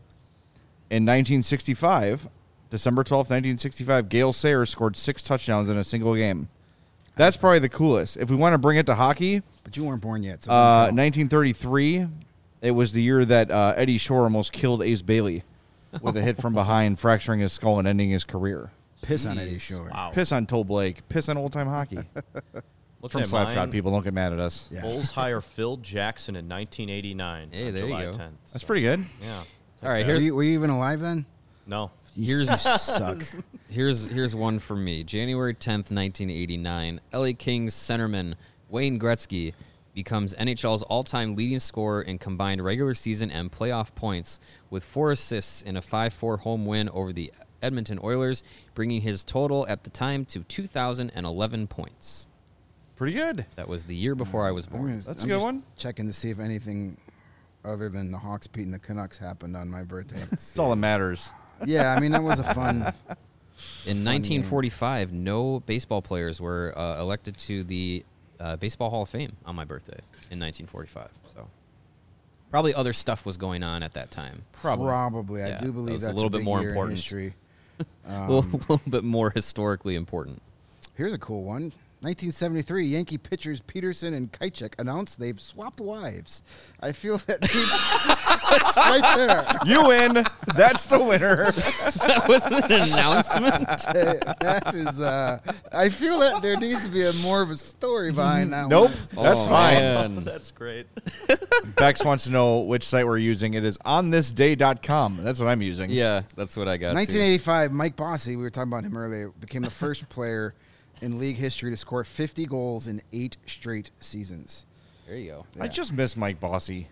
In nineteen sixty-five, December twelfth, nineteen sixty-five, Gale Sayers scored six touchdowns in a single game. That's probably the coolest. If we want to bring it to hockey, But you weren't born yet. So uh, don't count. nineteen thirty-three, it was the year that uh, Eddie Shore almost killed Ace Bailey. with a hit from behind, fracturing his skull and ending his career. Piss on Jeez. Eddie Shore. Wow. Piss on Toe Blake. Piss on old time hockey. Looking From at Slapshot, mine, people don't get mad at us. Yeah. Bulls hire Phil Jackson in nineteen eighty-nine. Hey, on there you July go. tenth. That's So, pretty good. Yeah. All right, Were here, you, were you even alive then? No. You Here's- suck. Here's here's one for me. January tenth, nineteen eighty-nine. L A Kings centerman Wayne Gretzky becomes N H L's all-time leading scorer in combined regular season and playoff points with four assists in a five four home win over the Edmonton Oilers, bringing his total at the time to two thousand eleven points. Pretty good. That was the year before I was I'm born. gonna- That's a I'm good just one. Checking to see if anything other than the Hawks beating the Canucks happened on my birthday. That's all that matters. Yeah, I mean, that was a fun. In nineteen forty-five, no baseball players were uh, elected to the uh, Baseball Hall of Fame on my birthday in nineteen forty-five. So probably other stuff was going on at that time. Probably. Probably. Yeah, I do that believe was a that's little bit big more year in important. history. a, little, Um, little bit more historically important. Here's a cool one. nineteen seventy-three, Yankee pitchers Peterson and Kychek announced they've swapped wives. I feel that needs, that's right there. You win. That's the winner. That was an announcement. Uh, that is, uh, I feel that there needs to be a more of a story behind that Nope. one. That's Oh, fine. man. That's great. Bex wants to know which site we're using. It is on this day dot com. That's what I'm using. Yeah, that's what I got. nineteen too. eighty-five, Mike Bossy, we were talking about him earlier, became the first player in league history to score fifty goals in eight straight seasons. There you go. I Yeah. just miss Mike Bossy.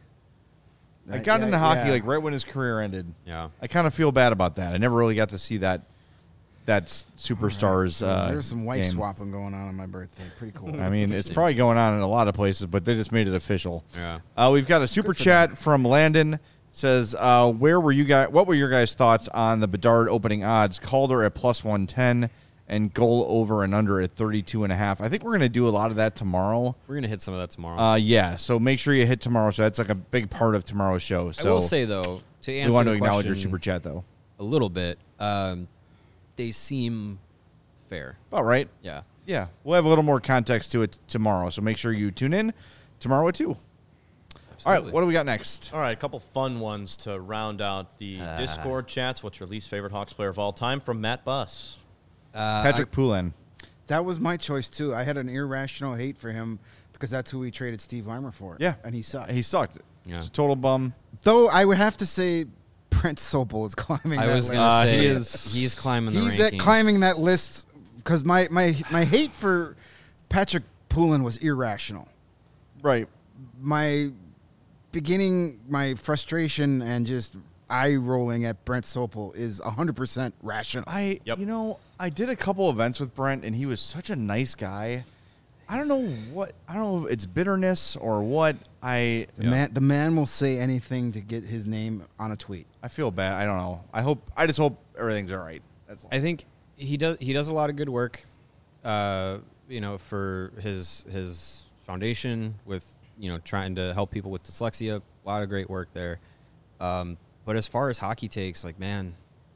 I Uh, got yeah, into hockey yeah. like right when his career ended. Yeah. I kind of feel bad about that. I never really got to see that that s- superstars. Uh, There was some wife game. swapping going on on my birthday. Pretty cool. I mean, it's probably going on in a lot of places, but they just made it official. Yeah. Uh, we've got a super chat from Landon. Says, uh, where were you guys? What were your guys' thoughts on the Bedard opening odds? Calder at plus one ten and goal over and under at thirty-two and a half. I think we're going to do a lot of that tomorrow. We're going to hit some of that tomorrow. Uh, yeah, so make sure you hit tomorrow. So that's like a big part of tomorrow's show. So I will say, though, to answer we want to the acknowledge your question super chat, though. a little bit, um, they seem fair. All right. Yeah. Yeah, we'll have a little more context to it tomorrow. So make sure you tune in tomorrow at two. All right, Absolutely. what do we got next? All right, a couple fun ones to round out the Discord chats. What's your least favorite Hawks player of all time? From Matt Buss. Uh, Patrick Poulin. That was my choice, too. I had an irrational hate for him because that's who we traded Steve Weimer for. Yeah. And he sucked. He sucked. Yeah. It's a total bum. Though I would have to say Brent Sopel is climbing I that was list. going to Uh, say he is- he's climbing the He's rankings. at climbing that list because my, my, my hate for Patrick Poulin was irrational. Right. My beginning, my frustration and just eye rolling at Brent Sopel is one hundred percent rational. I, Yep. you know, I did a couple events with Brent, and he was such a nice guy. I don't know what, I don't know if it's bitterness or what. I, The man, the man will say anything to get his name on a tweet. I feel bad. I don't know. I hope, I just hope everything's all right. That's all. I think he does. He does a lot of good work. Uh, you know, for his his foundation with you know trying to help people with dyslexia. A lot of great work there. Um, but as far as hockey takes, like man,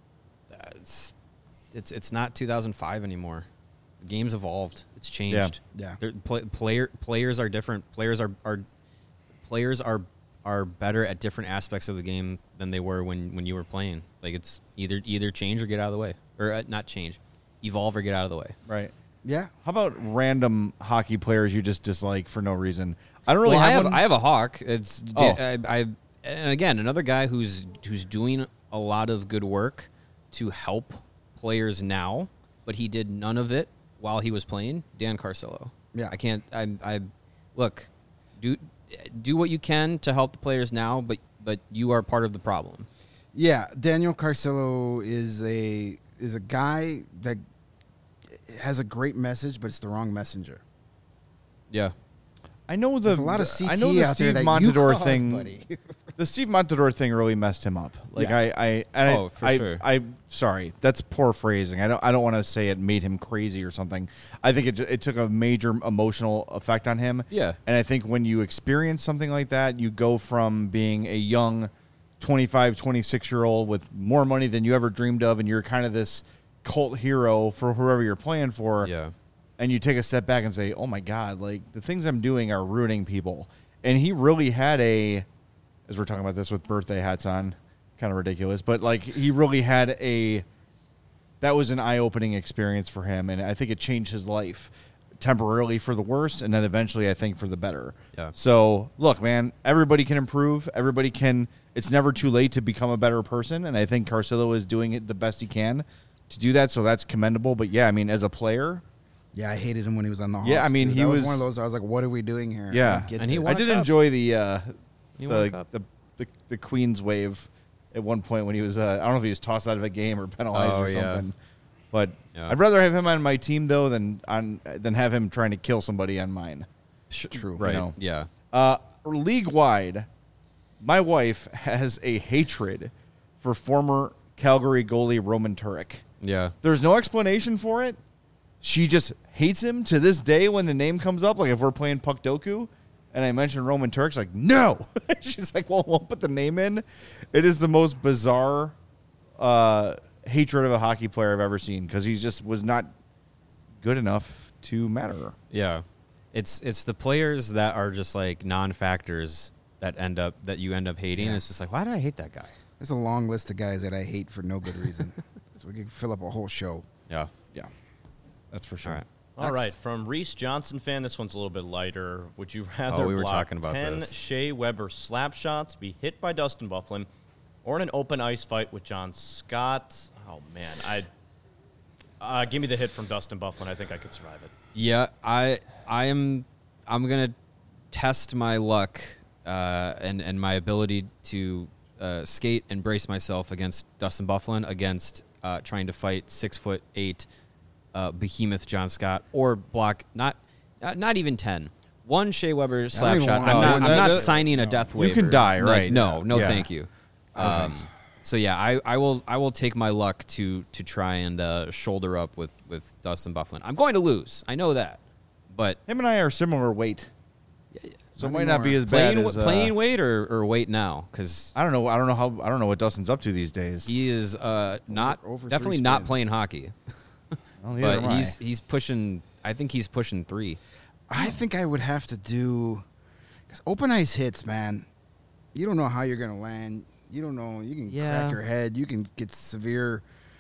it's it's it's not two thousand five anymore. The game's evolved. It's changed. Yeah. They're- Play, player players are different. Players are are players are are better at different aspects of the game than they were when, when you were playing. Like it's either either change or get out of the way, or uh, not change, evolve or get out of the way. right. Yeah. How about random hockey players you just dislike for no reason? I don't really well, I have, have one. I have a hawk. It's Oh. I, I and again another guy who's who's doing a lot of good work to help players now, but he did none of it while he was playing. Dan Carcillo. Yeah. I can't. I I look do do what you can to help the players now, but but you are part of the problem. Yeah, Daniel Carcillo is a is a guy that has a great message, but it's the wrong messenger. Yeah. I know the There's a lot of C T I know the out Steve there that you Montador caused, thing. buddy. The Steve Montador thing really messed him up. Like Yeah. I, I, and Oh, I, for I, sure. I, sorry, that's poor phrasing. I don't, I don't want to say it made him crazy or something. I think it, ju- it took a major emotional effect on him. Yeah. And I think when you experience something like that, you go from being a young twenty-five, twenty-six year old with more money than you ever dreamed of, and you're kind of this cult hero for whoever you're playing for. Yeah. And you take a step back and say, oh my God, like the things I'm doing are ruining people. And he really had a, as we're talking about this with birthday hats on, kind of ridiculous. But like he really had a that was an eye-opening experience for him, and I think it changed his life temporarily for the worse, and then eventually I think for the better. Yeah. So look, man, everybody can improve. Everybody can. It's never too late to become a better person, and I think Carcillo is doing it the best he can to do that. So that's commendable. But yeah, I mean, as a player. Yeah, I hated him when he was on the Hawks. Yeah, I mean, too. he that was, was one of those. I was like, "What are we doing here?" I Yeah, don't get And he this. won I did a cup. enjoy the uh, He won a the, cup. the the the Queen's wave at one point when he was. Uh, I don't know if he was tossed out of a game or penalized Oh, or yeah. something. But Yeah. I'd rather have him on my team though than on than have him trying to kill somebody on mine. True. Right. know. Yeah. Uh, league wide, my wife has a hatred for former Calgary goalie Roman Turek. Yeah. There's no explanation for it. She just hates him to this day when the name comes up. Like if we're playing Puck Doku and I mention Roman Turk's like, no. She's like, well, we'll put the name in. It is the most bizarre uh, hatred of a hockey player I've ever seen because he just was not good enough to matter. Yeah. It's it's the players that are just like non-factors that end up that you end up hating. Yeah. It's just like, why did I hate that guy? There's a long list of guys that I hate for no good reason. So we could fill up a whole show. Yeah. Yeah, that's for sure. All right. All Next. right, from Reese Johnson fan, this one's a little bit lighter. Would you rather Oh, we were block talking about ten this. Shea Weber slap shots, be hit by Dustin Byfuglien, or in an open ice fight with John Scott? Oh man, I uh, give me the hit from Dustin Byfuglien. I think I could survive it. Yeah, I I am I'm gonna test my luck uh, and and my ability to uh, skate and brace myself against Dustin Byfuglien against uh, trying to fight six foot eight uh, behemoth John Scott or block not not, not even ten. One Shea Weber slap even shot. want- I'm Oh, not. that- I'm not that- signing a death You waiver. can die, Like, right. no, no, Yeah. thank you. Um, so yeah, I, I will I will take my luck to to try and uh, shoulder up with, with Dustin Byfuglien. I'm going to lose. I know that, but Him and I are similar weight, so it Not might not be anymore. as bad playing as. Uh, playing weight or, or weight now because I don't know. I don't know how. I don't know what Dustin's up to these days. he is uh, not over three definitely not spins. playing hockey, Well, neither but am I. he's he's pushing. I think he's pushing three. I think I would have to do because open ice hits, man. You don't know how you're gonna land. You don't know. You can Yeah. crack your head. You can get severe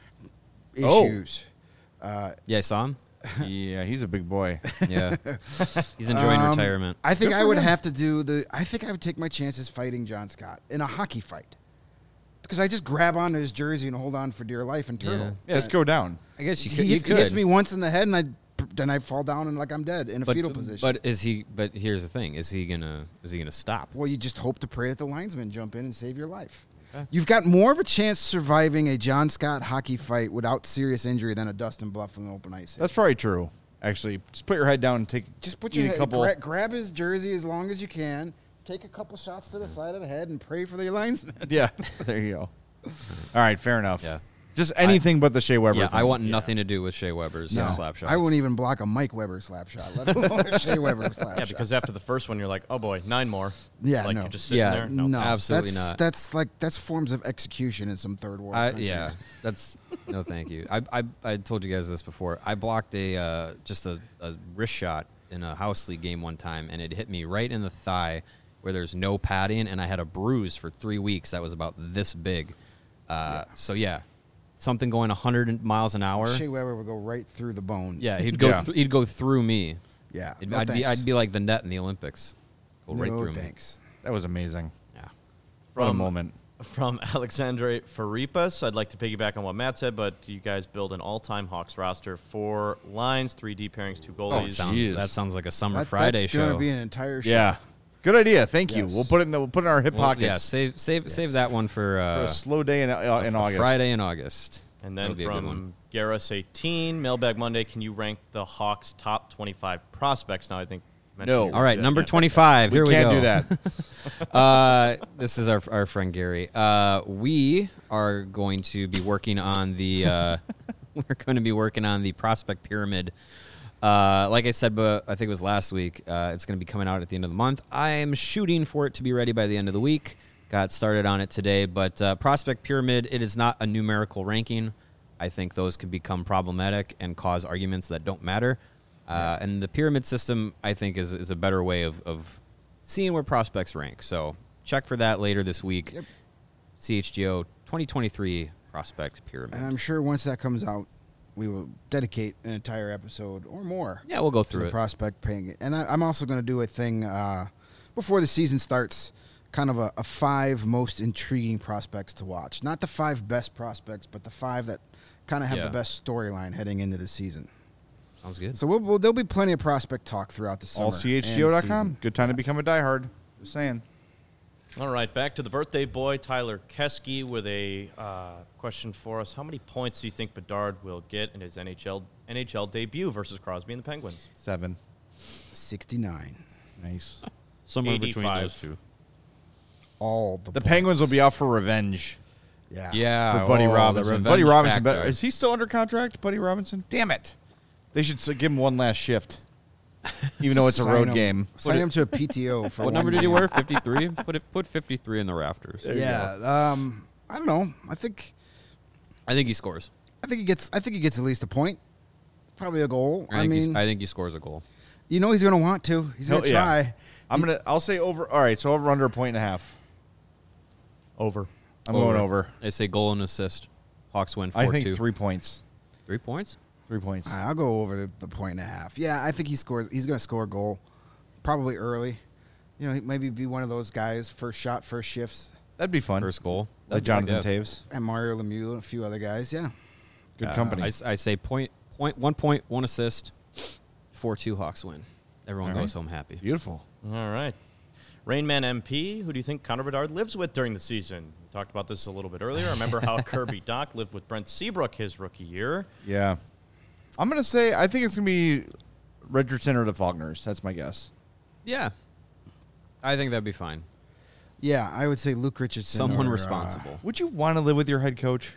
Oh. issues. Uh, Yeah, I saw him. yeah, he's a big boy. Yeah, he's enjoying um, retirement. I think Good I for would him. have to do the. I think I would take my chances fighting John Scott in a hockey fight because I just grab onto his jersey and hold on for dear life and turtle. Yeah, let's go down. I guess you He could. hits, you he hits could. me once in the head and I then I fall down and like I'm dead in a but, fetal position. But is he? But here's the thing: is he gonna? Is he gonna stop? Well, you just hope to pray that the linesman jump in and save your life. Okay. You've got more of a chance surviving a John Scott hockey fight without serious injury than a Dustin Byfuglien open ice hit. That's probably true. Actually, just put your head down and take. Just put eat your a head, couple. gra- grab his jersey as long as you can, take a couple shots to the side of the head, and pray for the linesman. Yeah, there you go. All right, fair enough. Yeah. Just anything but the Shea Weber. Yeah, thing. I want nothing to do with Shea Weber's No, slap shots. I wouldn't even block a Mike Weber slap shot, let alone a Shea Weber slap Yeah, shot. because after the first one, you're like, oh boy, nine more. Yeah, like no. you're just sitting Yeah, there. no, absolutely that's, not. That's like that's forms of execution in some third world I, countries. yeah, that's no, thank you. I, I I told you guys this before. I blocked a uh, just a, a wrist shot in a house league game one time, and it hit me right in the thigh, where there's no padding, and I had a bruise for three weeks that was about this big. Uh, So yeah, something going one hundred miles an hour. Shea Weber would go right through the bone. Yeah, he'd go Yeah. thr- he'd go through me. yeah. It'd- No I'd be thanks. I'd be like the net in the Olympics. Go right no through me. thanks. That was amazing. Yeah. What a From- moment. From Alexandre Faripas, I'd like to piggyback on what Matt said, but you guys build an all-time Hawks roster: four lines, three D pairings, two goalies. Sounds, Jeez. that sounds like a summer That, Friday that's show. gonna be an entire show. Yeah, good idea. Thank you. Yes. We'll put it in. The, we'll put it in our hip Well, pockets. yeah, save save save that one for, For uh, a slow day in, uh, in for August. Friday in August. And That'll then be a good one. from Garrus eighteen, Mailbag Monday, can you rank the Hawks' top twenty-five prospects? Now, I think. mentioned No. you All right, would, number yeah. twenty-five. We Here we can't go. do that. uh, this is our our friend Gary. Uh, we are going to be working on the. Uh, we're going to be working on the prospect pyramid. Uh, like I said, but I think it was last week. Uh, it's going to be coming out at the end of the month. I am shooting for it to be ready by the end of the week. Got started on it today, but uh, prospect pyramid. It is not a numerical ranking. I think those could become problematic and cause arguments that don't matter. Uh, and the pyramid system, I think, is is a better way of, of seeing where prospects rank. So check for that later this week. Yep. C H G O twenty twenty-three prospect pyramid. And I'm sure once that comes out, we will dedicate an entire episode or more. Yeah, we'll go to through the it. prospect paying. And I, I'm also going to do a thing uh, before the season starts, kind of a, a five most intriguing prospects to watch. Not the five best prospects, but the five that kind of have Yeah. the best storyline heading into the season. Sounds good. So we'll, we'll, there'll be plenty of prospect talk throughout the summer. All C H G O dot com. Good time to become a diehard. Just saying. All right, back to the birthday boy, Tyler Keski, with a uh, question for us. How many points do you think Bedard will get in his N H L N H L debut versus Crosby and the Penguins? Seven. sixty-nine. Nice. Somewhere between eighty-five. those two. All the The points. Penguins will be out for revenge Yeah. Yeah. for Buddy oh, the Robinson. Buddy revenge Robinson. factor. Better, is he still under contract, Buddy Robinson? Damn it. They should s- give him one last shift, even though it's a Sign road him- game. Sign him to a P T O for What one number did he game. wear? fifty-three? Put it. Put fifty-three in the rafters. Yeah. Um, I don't know. I think I think he scores. I think he gets I think he gets at least a point. Probably a goal. I, I, think he's- mean, I think he scores a goal. you know he's going to want to. He's going to He'll- yeah. try. I'm gonna. I'll say over. All right, so over under a point and a half. Over. I'm going over. I say goal and assist. Hawks win four I two. think three points. Three points? Three points. I'll go over the, the point and a half. Yeah, I think he scores. He's going to score a goal, probably early. You know, he maybe be one of those guys, first shot, first shifts, That'd be fun. First goal. like Jonathan Yeah. Taves. and Mario Lemieux and a few other guys. Yeah, Good Uh, company. I, s- I say point, point, one point, one assist, four two Hawks win. Everyone All right. goes home happy. Beautiful. All right. Rainman M P, who do you think Connor Bedard lives with during the season? We talked about this a little bit earlier. Remember how Kirby Doc lived with Brent Seabrook his rookie year? Yeah. I'm gonna say I think it's gonna be Richardson or the Faulkners. That's my guess. Yeah. I think that'd be fine. yeah. I would say Luke Richardson. Someone or, uh, responsible. Would you want to live with your head coach?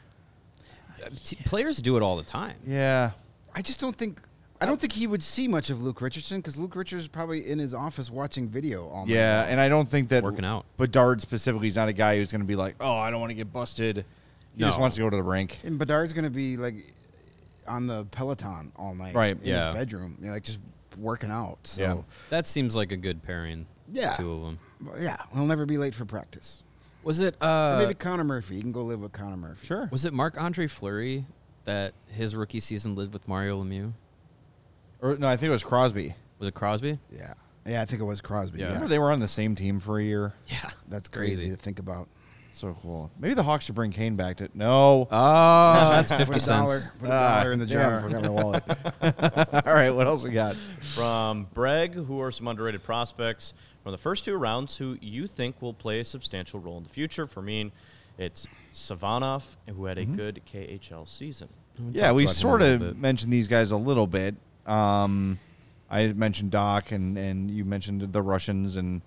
T- Players do it all the time. Yeah. I just don't think. I don't think he would see much of Luke Richardson because Luke Richardson's probably in his office watching video all night. Yeah, long. and I don't think that Working out. Bedard specifically is not a guy who's going to be like, oh, I don't want to get busted. He just No. wants to go to the rink. And Bedard's going to be like on the Peloton all night, Right. In Yeah. his bedroom, you know, like just working out. So Yeah. That seems like a good pairing. Yeah. The two of them. Well, yeah, he'll never be late for practice. Was it Or uh maybe Connor Murphy. You can go live with Connor Murphy. Sure. was it Marc-Andre Fleury that his rookie season lived with Mario Lemieux? Or no, I think it was Crosby. Was it Crosby? Yeah. Yeah, I think it was Crosby. Yeah. Yeah. Remember they were on the same team for a year. Yeah. That's crazy, Crazy. to think about. So cool. Maybe the Hawks should bring Kane back to no. Oh, that's Put fifty a dollar, cents. put a Ah, dollar in the damn, jar. I forgot my wallet. All right, what else we got? From Breg, who are some underrated prospects from the first two rounds who you think will play a substantial role in the future. For me, it's Savanov, who had a good K H L season. Yeah, talked we about him a sort little of bit. mentioned these guys a little bit. Um, I mentioned Doc, and, and you mentioned the Russians and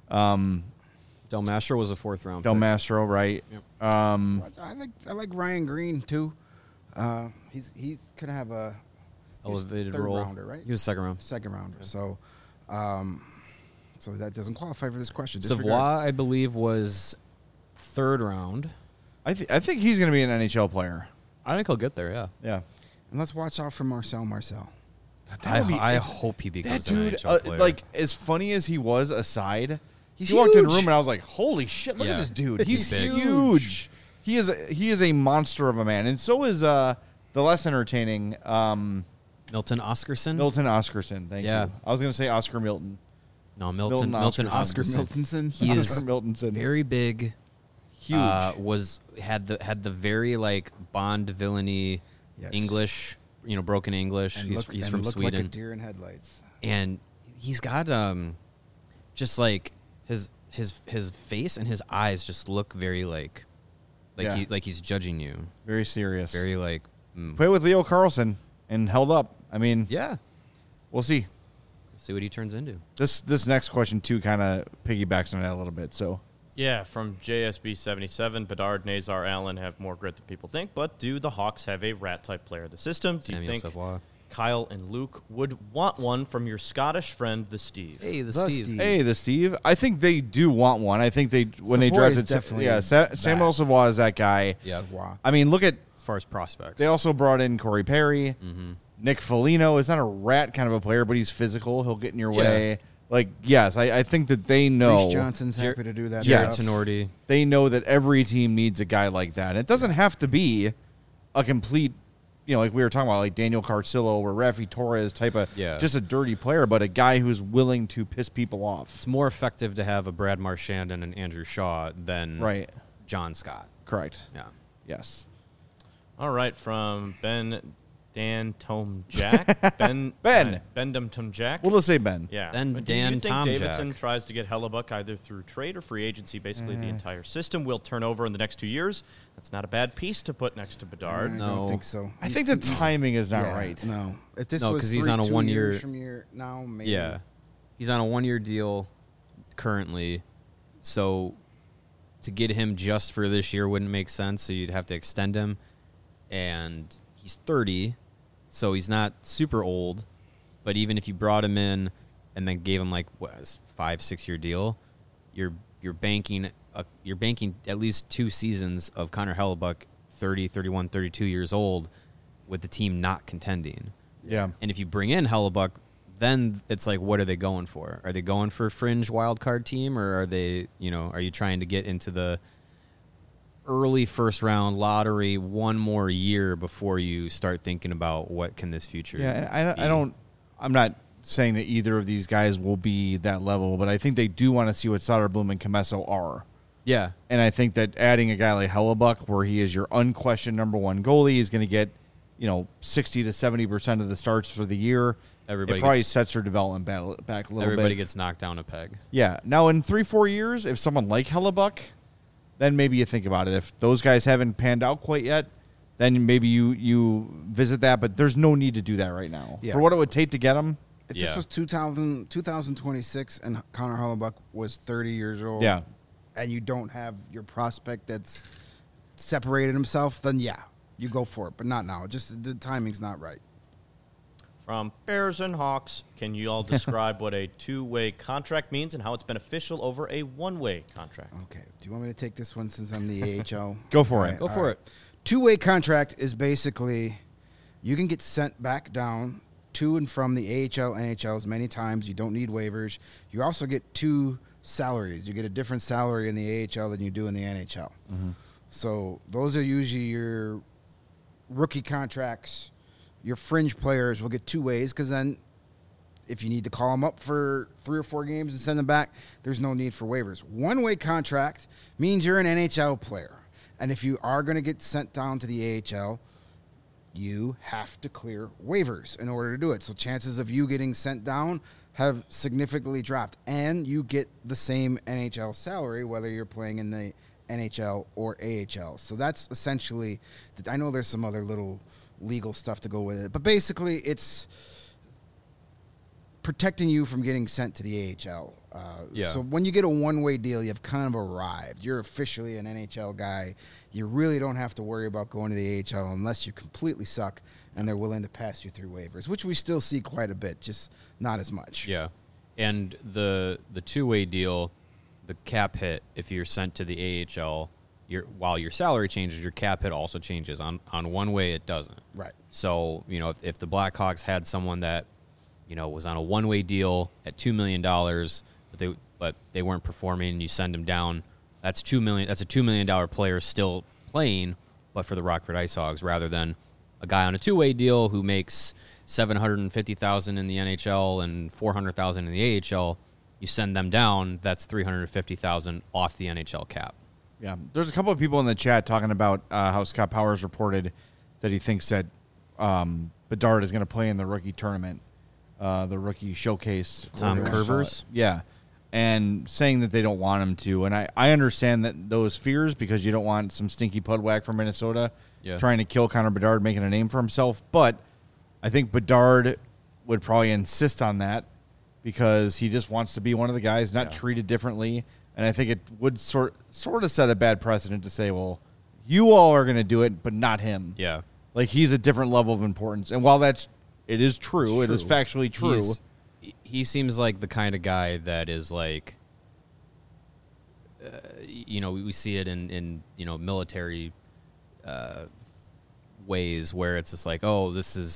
um, Del Mastro was a fourth round. Del pick. Mastro, right? Yep. Um, I like I like Ryan Green too. Uh, he's he's gonna have a he's Elevated third role. rounder, right? He was second round. Second rounder. So, um, so that doesn't qualify for this question. Savoy, Disregard. I believe, was third round. I, th- I think he's going to be an N H L player. I think he'll get there. Yeah. Yeah. And let's watch out for Marcel Marcel. I, would be- I if- hope he That becomes an dude, N H L uh, player. like, as funny as he was aside, He's he walked in the huge. room and I was like, "Holy shit! Look Yeah. at this dude. He's, He's big. huge. He is a, he is a monster of a man." And so is uh, the less entertaining um, Milton Oscarson. Milton Oscarson. Thank Yeah. you. I was going to say Oscar Milton. no, Milton. Milton Milton Oscarson. Oscar Oscarson. Miltonson. He is Oscar Miltonson. very big. huge. Uh, was had the had the very like Bond villainy Yes. English, you know, broken English. And he's look, he's and from look Sweden, like a deer in headlights. and he's got um, just like his his his face and his eyes just look very like, like Yeah. he like he's judging you, Very serious. very like. Mm. Played with Leo Carlson and held up. I mean, Yeah, we'll see. see what he turns into. This this next question too kind of piggybacks on that a little bit. So Yeah, from J S B seventy-seven, Bedard, Nazar, Allen have more grit than people think, but do the Hawks have a rat-type player in the system? Do you Samuel think Savoy. Kyle and Luke would want one from your Scottish friend, the Steve? Hey, the, The Steve. Steve. hey, the Steve. I think they do want one. I think they when they Savoy is drafted definitely yeah Sa- that. Samuel Savoy is that guy. Yeah. Savoy. I mean, look at As far as prospects, they also brought in Corey Perry. Mm-hmm. Nick Foligno is not a rat kind of a player, but he's physical. He'll get in your Yeah. way. Like, yes, I, I think that they know. Reese Johnson's Jer- happy to do that. Jared stuff. Tenorti. They know that every team needs a guy like that. And it doesn't have to be a complete, you know, like we were talking about, like Daniel Carcillo or Rafi Torres type of, Yeah. just a dirty player, but a guy who's willing to piss people off. It's more effective to have a Brad Marchand and an Andrew Shaw than Right. John Scott. Correct. Yeah. Yes. All right, from Ben Dan Tom Jack. Ben Ben. uh, Ben Tom Jack. We'll just say Ben. Yeah. Then But Dan Do you think Tom Davidson Jack. tries to get Hellebuck either through trade or free agency? Basically, Mm. the entire system will turn over in the next two years. That's not a bad piece to put next to Bedard. I No. don't think so. I He's think the too- he's- timing is not yeah, right. No, if this No, was 'cause he's three- on a two one years year- from year now, maybe. Yeah. He's on a one-year deal currently. So to get him just for this year wouldn't make sense. So you'd have to extend him. And he's thirty, so he's not super old. But even if you brought him in and then gave him like what, a five, six-year deal, you're you're banking a, you're banking at least two seasons of Connor Hellebuck, thirty, thirty-one, thirty-two years old, with the team not contending. Yeah. And if you bring in Hellebuck, then it's like, what are they going for? Are they going for a fringe wild card team, or are they, you know, are you trying to get into the early first round lottery one more year before you start thinking about what can this future? Yeah, and be? I, I don't. I'm not saying that either of these guys will be that level, but I think they do want to see what Soderblom and Comesso are. Yeah, And I think that adding a guy like Hellebuck, where he is your unquestioned number one goalie, is going to get, you know, sixty to seventy percent of the starts for the year. Everybody it probably gets- sets their development back, back a little everybody bit. gets knocked down a peg. Yeah. Now, in three, four years, if someone like Hellebuck, then maybe you think about it. If those guys haven't panned out quite yet, then maybe you, you visit that. But there's no need to do that right now. Yeah. For what it would take to get them, If Yeah. this was two thousand, twenty twenty-six and Connor Hellebuck was thirty years old, yeah. and you don't have your prospect that's separated himself, then yeah, you go for it. But not now. Just the timing's not right. From Bears and Hawks, can you all describe what a two-way contract means and how it's beneficial over a one-way contract? Okay. Do you want me to take this one since I'm the A H L? Go for All it. right, Go all for right. it. Two-way contract is basically you can get sent back down to and from the A H L, N H L as many times. You don't need waivers. You also get two salaries. You get a different salary in the A H L than you do in the N H L. So those are usually your rookie contracts. Your fringe players will get two ways because then if you need to call them up for three or four games and send them back, there's no need for waivers. One-way contract means you're an N H L player. And if you are going to get sent down to the A H L, you have to clear waivers in order to do it. So chances of you getting sent down have significantly dropped. And you get the same N H L salary, whether you're playing in the N H L or A H L. So that's essentially, I know there's some other little legal stuff to go with it, but basically it's protecting you from getting sent to the A H L. Uh, Yeah. So when you get a one-way deal, you've kind of arrived. You're officially an N H L guy. You really don't have to worry about going to the A H L unless you completely suck and they're willing to pass you through waivers, which we still see quite a bit, just not as much. Yeah, and the the two way deal, the cap hit if you're sent to the A H L, your while your salary changes, your cap hit also changes. On on one way, it doesn't. Right. So you know if, if the Blackhawks had someone that you know was on a one way deal at two million dollars, but they but they weren't performing, and you send them down, that's two million. That's a two million dollar player still playing, but for the Rockford Ice Hogs rather than a guy on a two way deal who makes seven hundred and fifty thousand in the N H L and four hundred thousand in the A H L. You send them down, that's three hundred fifty thousand off the N H L cap. Yeah, there's a couple of people in the chat talking about uh, how Scott Powers reported that he thinks that um, Bedard is going to play in the rookie tournament, uh, the rookie showcase. Tom whatever you wanna call Curvers? it. Yeah, and saying that they don't want him to. And I, I understand that those fears because you don't want some stinky pudwhack from Minnesota Yeah. trying to kill Connor Bedard, making a name for himself. But I think Bedard would probably insist on that because he just wants to be one of the guys, not Yeah. treated differently. And I think it would sort sort of set a bad precedent to say, well, you all are going to do it, but not him. Yeah. Like he's a different level of importance. And while that's it is true, It's it is true. factually true. He's- he seems like the kind of guy that is like, uh, you know, we, we see it in, in you know, military uh, ways where it's just like, oh, this is,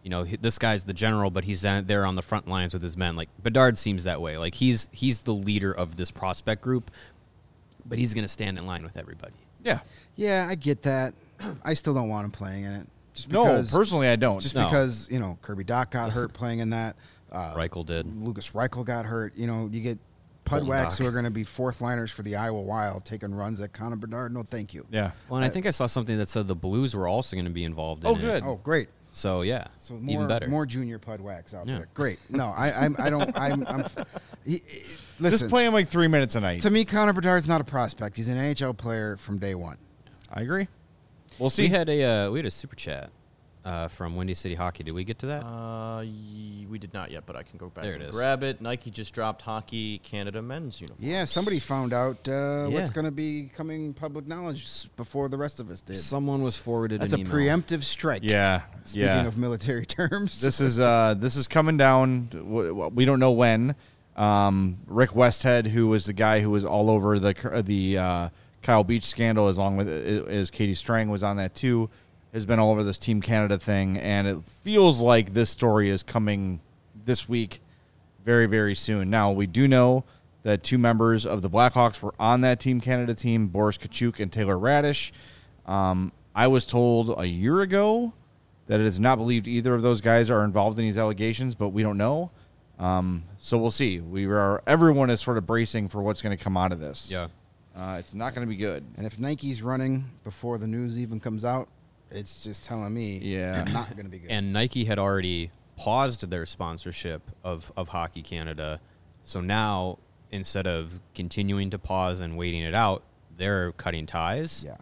you know, he- this guy's the general, but he's uh, there on the front lines with his men. Like Bedard seems that way. Like he's he's the leader of this prospect group, but he's going to stand in line with everybody. Yeah. Yeah, I get that. I still don't want him playing in it. Just No, because, personally, I don't. Just No. because, you know, Kirby Doc got hurt playing in that. Uh, Reichel did. Lucas Reichel got hurt. You know, you get Colton Pudwacks Doc. who are going to be fourth liners for the Iowa Wild taking runs at Connor Bedard. No, thank you. yeah. Well, and I think I saw something that said the Blues were also going to be involved in Oh, it. good. Oh, great. So, yeah, So more, even better. more junior Pudwacks out Yeah. there. Great. No, I, I'm, I don't. I'm. I'm he, he- listen, Just play him like three minutes a night. to me, Connor Bedard's not a prospect. He's an N H L player from day one. I agree. We'll see. We had a uh, we had a super chat uh, from Windy City Hockey. Did we get to that? Uh, y- we did not yet, but I can go back There and it is. grab it. Nike just dropped Hockey Canada men's uniform. Yeah, somebody found out uh, Yeah. what's going to be coming public knowledge s- before the rest of us did. Someone was forwarded That's an a email. preemptive strike. Yeah. Speaking yeah. of military terms, This is uh, this is coming down. w- We don't know when. Um, Rick Westhead, who was the guy who was all over the the uh, Kyle Beach scandal, as long with as Katie Strang was on that too, has been all over this Team Canada thing, and it feels like this story is coming this week, very very soon. Now we do know that two members of the Blackhawks were on that Team Canada team, Boris Kachuk and Taylor Radish. Um, I was told a year ago that it is not believed either of those guys are involved in these allegations, but we don't know. Um, so we'll see. We are everyone is sort of bracing for what's going to come out of this. Yeah. Uh, it's not going to be good. and if Nike's running before the news even comes out, it's just telling me Yeah. it's not going to be good. And Nike had already paused their sponsorship of, of Hockey Canada. So now, instead of continuing to pause and waiting it out, they're cutting ties. yeah,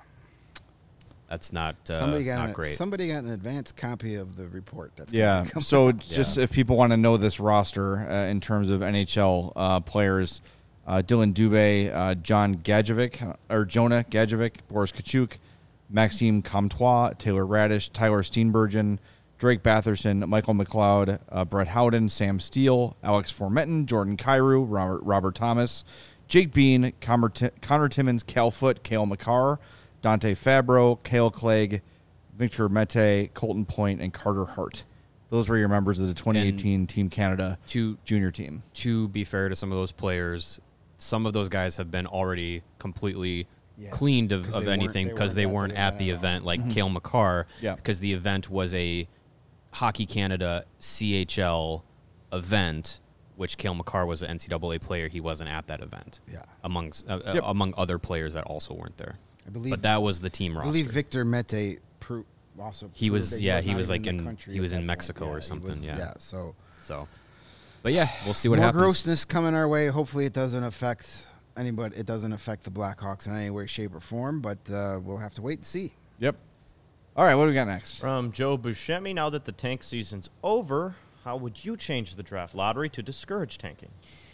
That's not, uh, somebody got not an, great. somebody got an advanced copy of the report. That's gonna Yeah. be coming So out. just Yeah. if people want to know this roster uh, in terms of N H L uh, players, uh, Dylan Dubé, uh, John Gadjevic, or Jonah Gadjevic, Boris Kachuk, Maxime Comtois, Taylor Radish, Tyler Steenbergen, Drake Batherson, Michael McLeod, uh, Brett Howden, Sam Steele, Alex Formenton, Jordan Cairo, Robert, Robert Thomas, Jake Bean, Connor, Ti- Connor Timmons, Cal Foote, Cale McCarr, Dante Fabro, Cale Clegg, Victor Mete, Colton Point, and Carter Hart. Those were your members of the twenty eighteen Team Canada to junior team. to be fair to some of those players, some of those guys have been already completely Yeah, cleaned of, 'cause of they weren't- anything they because they weren't at at the the event at all. event, like Cale McCarr, Yeah. because the event was a Hockey Canada C H L event, which Cale McCarr was an N C double A player. He wasn't at that event. Yeah. amongst uh, Yep. uh, among other players that also weren't there. I believe. But that was the team I roster. believe Victor Mete pro- also. He was- proved that yeah, he not was, even like, the in- country he at was that in point. Mexico or he something, was- yeah. yeah. So so, but yeah, we'll see what more happens. grossness coming our way. Hopefully, it doesn't affect anybody. It doesn't affect the Blackhawks in any way, shape, or form. But uh, we'll have to wait and see. Yep. All right, what do we got next? From Joe Buscemi, now that the tank season's over, how would you change the draft lottery to discourage tanking?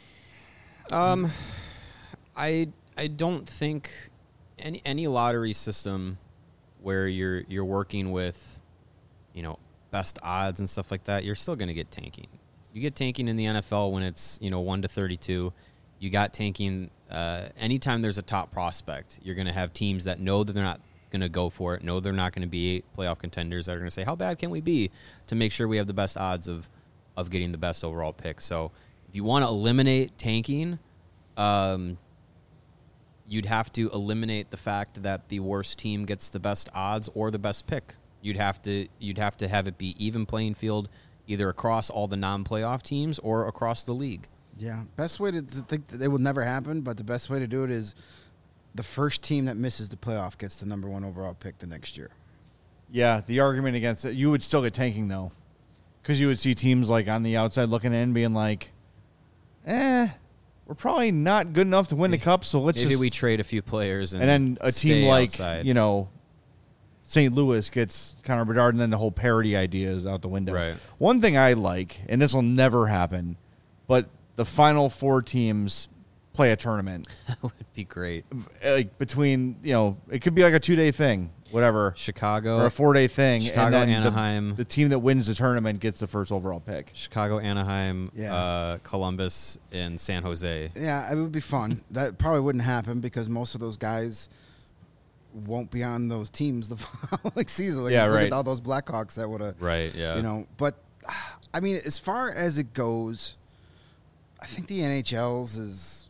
Um, I I don't think any any lottery system where you're you're working with, you know, best odds and stuff like that, you're still going to get tanking. You get tanking in the N F L when it's, you know, one to thirty-two. You got tanking uh, anytime there's a top prospect. You're going to have teams that know that they're not going to go for it, know they're not going to be playoff contenders, that are going to say, how bad can we be to make sure we have the best odds of of getting the best overall pick. So if you want to eliminate tanking, um, you'd have to eliminate the fact that the worst team gets the best odds or the best pick. You'd have to you'd have to have it be even playing field, either across all the non-playoff teams or across the league. Yeah, best way to, to think that it will never happen, but the best way to do it is the first team that misses the playoff gets the number one overall pick the next year. Yeah, the argument against it, you would still get tanking though, because you would see teams like on the outside looking in, being like, "Eh, we're probably not good enough to win the cup, so let's Maybe just." we trade a few players and, and then a stay team like outside. you know, Saint Louis gets Connor Bedard, and then the whole parity idea is out the window. Right. One thing I like, and this will never happen, but the final four teams play a tournament, that would be great. like between you know, it could be like a two day thing, whatever. Chicago Or a four-day thing, Chicago, and then the- Anaheim. The, team that wins the tournament gets the first overall pick. Chicago, Anaheim, Yeah. uh, Columbus, and San Jose. Yeah, it would be fun. That probably wouldn't happen because most of those guys won't be on those teams the following season. Like, Yeah, just look right. at all those Blackhawks that would have, Right, yeah. you know. But I mean, as far as it goes, I think the N H L's is,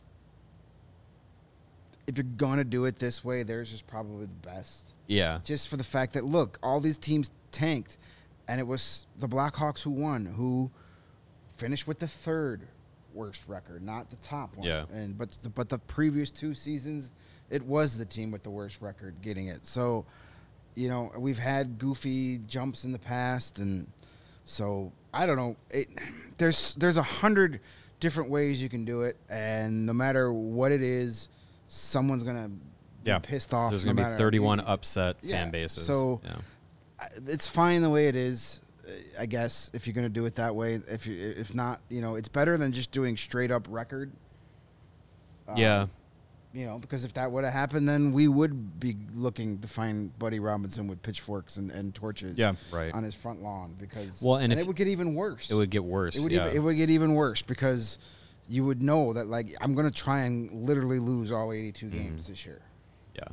if you're gonna do it this way, theirs is probably the best. Yeah. Just for the fact that, look, all these teams tanked, and it was the Blackhawks who won, who finished with the third worst record, not the top one. Yeah. And but the, but the previous two seasons, it was the team with the worst record getting it. So, you know, we've had goofy jumps in the past, and so I don't know. It, there's there's a hundred different ways you can do it, and no matter what it is, someone's gonna Yeah. be pissed off. There's no going to be matter- thirty-one upset Yeah, fan bases. so- yeah. I- it's fine the way it is, uh, I guess, if you're going to do it that way. If you, if not, you know, it's better than just doing straight up record. Um, yeah. You know, because if that would have happened, then we would be looking to find Buddy Robinson with pitchforks and, and torches Yeah. Right. on his front lawn, because Well, and and if- it would get even worse. It would get worse. It would yeah. even, it would get even worse, because you would know that, like, I'm going to try and literally lose all eighty-two Mm-hmm. games this year. yeah.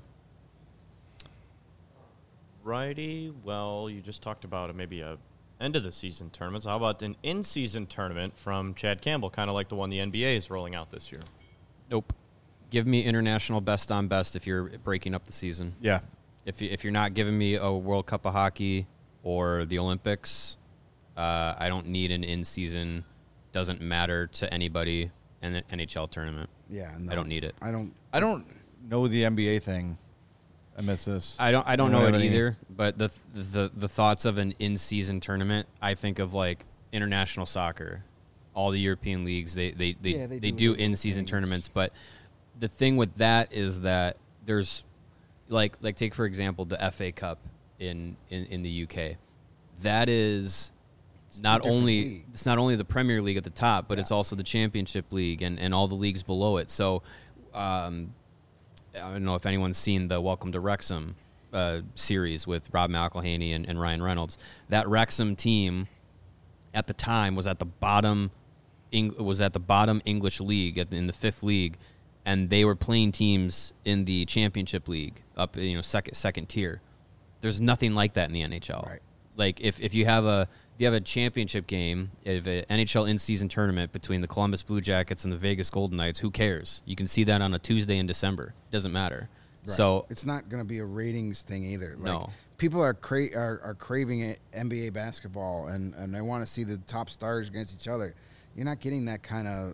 Righty. Well, you just talked about a, maybe a end of the season tournament. So how about an in-season tournament from Chad Campbell, kind of like the one the N B A is rolling out this year? Nope. Give me international best on best if you're breaking up the season. Yeah. If you, if you're not giving me a World Cup of Hockey or the Olympics, uh, I don't need an in-season. Doesn't matter to anybody in the N H L tournament. Yeah. No, I don't need it. I don't. I don't know the N B A thing. I miss this. I don't. I don't You know know it what I mean? either. But the the the thoughts of an in-season tournament, I think of like international soccer, all the European leagues. They they they, Yeah, they, they do do little in-season things. tournaments. But the thing with that is that there's like like take for example the F A Cup in in, in the U K. That is a not different only league. it's not only the Premier League at the top, but Yeah. it's also the Championship League and, and all the leagues below it. So um, I don't know if anyone's seen the Welcome to Wrexham uh, series with Rob McElhaney and, and Ryan Reynolds. That Wrexham team at the time was at the bottom Eng- was at the bottom English league at the, in the fifth league, and they were playing teams in the Championship League up you know second second tier. There's nothing like that in the N H L. Right. Like if, if you have a if you have a championship game, if an N H L in-season tournament between the Columbus Blue Jackets and the Vegas Golden Knights, who cares? You can see that on a Tuesday in December. It doesn't matter. Right. So it's not going to be a ratings thing either. Like, No. people are, cra- are are craving it, N B A basketball, and and they want to see the top stars against each other. You're not getting that kind of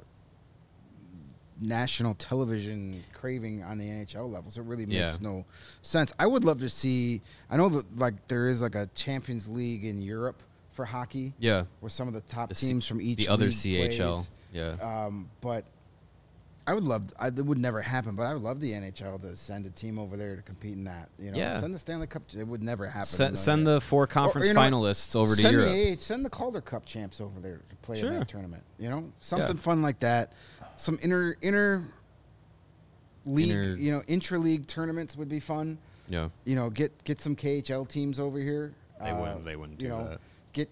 national television craving on the N H L level. So it really makes Yeah. no sense. I would love to see. I know that like there is like a Champions League in Europe for hockey, yeah, where some of the top The C- teams from each the other league C H L. plays. Yeah. Um, but I would love. I, it would never happen, but I would love the N H L to send a team over there to compete in that. You know, Yeah. send the Stanley Cup. It would never happen. Send, send the four conference you know what? finalists over to send Europe. The A H, send the Calder Cup champs over there to play in Sure. that tournament. You know, something Yeah. fun like that. Some inner inner league, Inter- you know, intra league tournaments would be fun. Yeah. You know, get get some K H L teams over here. They Uh, wouldn't. They wouldn't You do know, that. get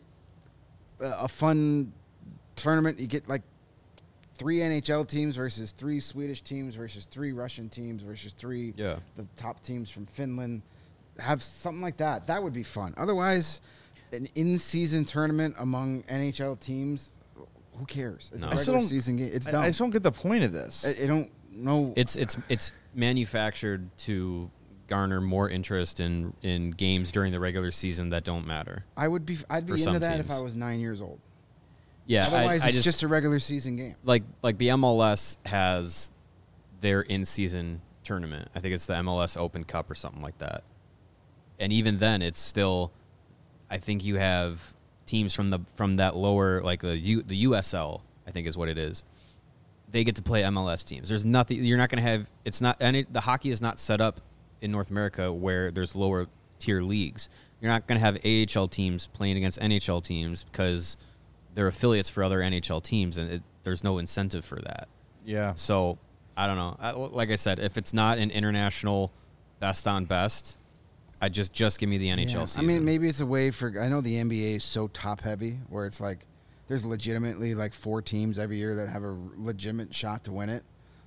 a, a fun tournament. You get like three N H L teams versus three Swedish teams versus three Russian teams versus three Yeah. the top teams from Finland. Have something like that. That would be fun. Otherwise, an in-season tournament among N H L teams, who cares? It's No. a I still regular don't- season game. It's I, dumb. I just don't get the point of this. I, I don't know. It's it's it's manufactured to garner more interest in, in games during the regular season that don't matter. I would be. I'd be for into some that if teams. I was nine years old. Yeah, Otherwise, I, I it's just, just, a regular season game. like like the M L S has their in-season tournament. I think it's the M L S Open Cup or something like that. And even then, it's still. I think you have teams from the from that lower like the U, the U S L. I think is what it is. They get to play M L S teams. There's nothing. You're not going to have. It's not. And it, the hockey is not set up in North America where there's lower tier leagues. You're not going to have A H L teams playing against N H L teams because they're affiliates for other N H L teams, and it, there's no incentive for that. yeah. So I don't know. I, like I said, if it's not an international best on best, I just just give me the N H L Yeah. season. I mean, maybe it's a way for. I know the N B A is so top heavy, where it's like there's legitimately like four teams every year that have a legitimate shot to win it.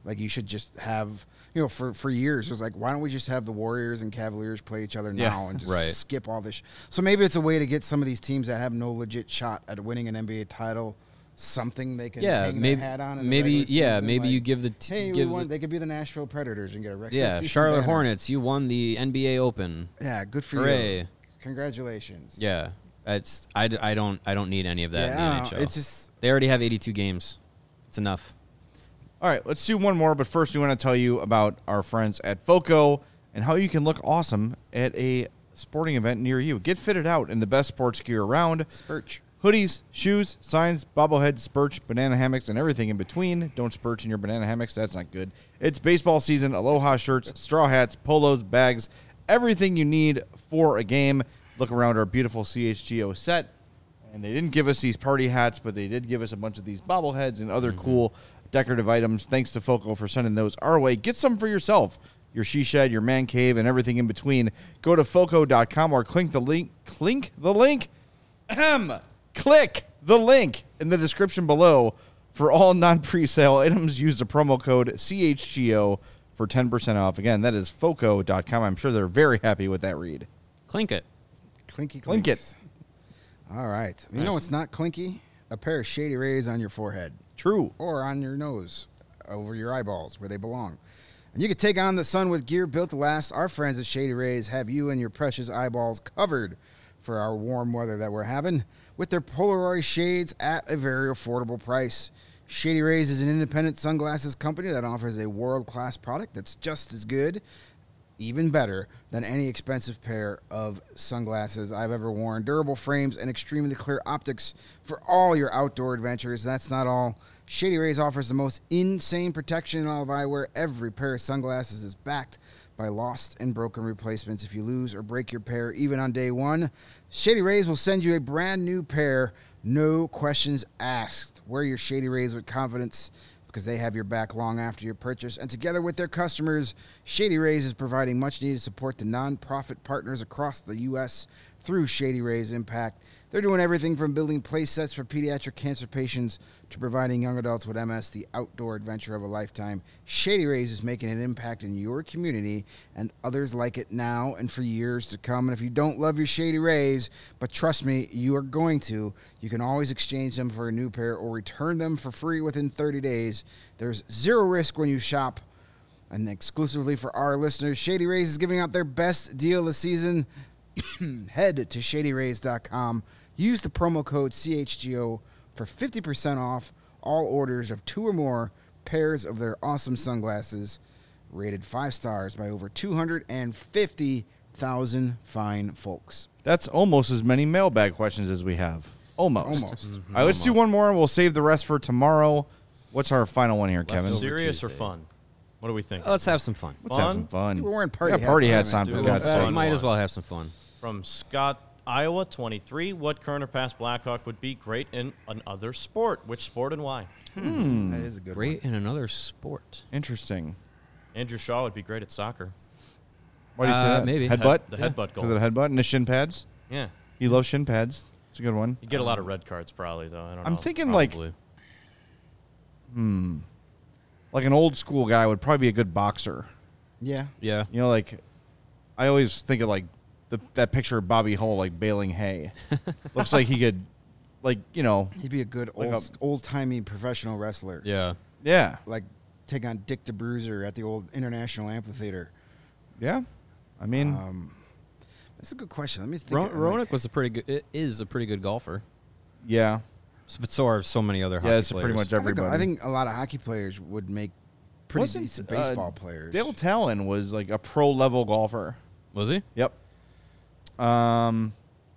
Like you should just have, you know, for, for years it was like, why don't we just have the Warriors and Cavaliers play each other Yeah, now and just right. skip all this? Sh- so maybe it's a way to get some of these teams that have no legit shot at winning an N B A title something they can Yeah, hang maybe their hat on. In the maybe regular yeah, season. maybe like, you give the t- hey, we give won, the, they could be the Nashville Predators and get a regular yeah, season Charlotte banner. Hornets. You won the N B A Open. Yeah, good for Hooray. you. Congratulations. Yeah, it's I, d- I don't I don't need any of that Yeah, in I the don't N H L. know. It's just They already have eighty-two games. It's enough. All right, let's do one more, but first we want to tell you about our friends at FOCO and how you can look awesome at a sporting event near you. Get fitted out in the best sports gear around. Spurch. Hoodies, shoes, signs, bobbleheads, spurch, banana hammocks, and everything in between. Don't spurch in your banana hammocks. That's not good. It's baseball season. Aloha shirts, straw hats, polos, bags, everything you need for a game. Look around our beautiful C H G O set. And they didn't give us these party hats, but they did give us a bunch of these bobbleheads and other mm-hmm. cool decorative items. Thanks to FOCO for sending those our way. Get some for yourself. Your she shed, your man cave, and everything in between. Go to foco dot com or click the link. Clink the link. Ahem. Click the link in the description below for all non-presale items. Use the promo code C H G O for ten percent off. Again, that is foco dot com. I'm sure they're very happy with that read. Clink it. Clinky Clink clinks. it. All right. You know what's not clinky? A pair of Shady Rays on your forehead. True. Or on your nose, over your eyeballs, where they belong. And you can take on the sun with gear built to last. Our friends at Shady Rays have you and your precious eyeballs covered for our warm weather that we're having with their Polaroid shades at a very affordable price. Shady Rays is an independent sunglasses company that offers a world-class product that's just as good, even better, than any expensive pair of sunglasses I've ever worn. Durable frames and extremely clear optics for all your outdoor adventures. That's not all. Shady Rays offers the most insane protection in all of eyewear. Every pair of sunglasses is backed by lost and broken replacements. If you lose or break your pair, even on day one, Shady Rays will send you a brand new pair, no questions asked. Wear your Shady Rays with confidence because they have your back long after your purchase. And together with their customers, Shady Rays is providing much-needed support to nonprofit partners across the U S through Shady Rays Impact. They're doing everything from building play sets for pediatric cancer patients to providing young adults with M S the outdoor adventure of a lifetime. Shady Rays is making an impact in your community and others like it now and for years to come. And if you don't love your Shady Rays, but trust me, you are going to, you can always exchange them for a new pair or return them for free within thirty days. There's zero risk when you shop. And exclusively for our listeners, Shady Rays is giving out their best deal this season. Head to shady rays dot com. Use the promo code C H G O for fifty percent off all orders of two or more pairs of their awesome sunglasses, rated five stars by over two hundred fifty thousand fine folks. That's almost as many mailbag questions as we have. Almost. Almost. Mm-hmm. All right, let's do one more, and we'll save the rest for tomorrow. What's our final one here, Kevin? Serious or fun? What do we think? Oh, let's have some fun. Let's have some fun. We're wearing party yeah, hats. party on, hats man. on, for Do God's a Uh, sake. fun might one. as well have some fun. From Scott, Iowa, twenty-three. What current or past Blackhawk would be great in another sport? Which sport and why? Hmm. That is a good Great in another sport. Interesting. Andrew Shaw would be great at soccer. Why do you say Uh, that? maybe. Headbutt? Head- the headbutt goal. Because of the headbutt and the shin pads? Yeah. You love shin pads. It's a good one. You get a lot of red cards probably, though. I don't know. I'm thinking like, Probably. hmm, like an old school guy would probably be a good boxer. one. Yeah. Yeah. You know, like, I always think of like the, that picture of Bobby Hull like baling hay. Looks like he could, like, you know, He'd be a good Like old, a- old-timey professional wrestler. Yeah. yeah, Like take on Dick DeBruiser at the old International Amphitheater. yeah. I mean, Um, that's a good question. Let me think. Ro- I'm Roenick like- was a pretty good. It is a pretty good golfer. yeah, So, but so are so many other hockey yeah. It's players. pretty much I think, everybody. I think a lot of hockey players would make pretty Wasn't, decent uh, baseball players. Dale Talon was like a pro level golfer. Was he? Yep. Um.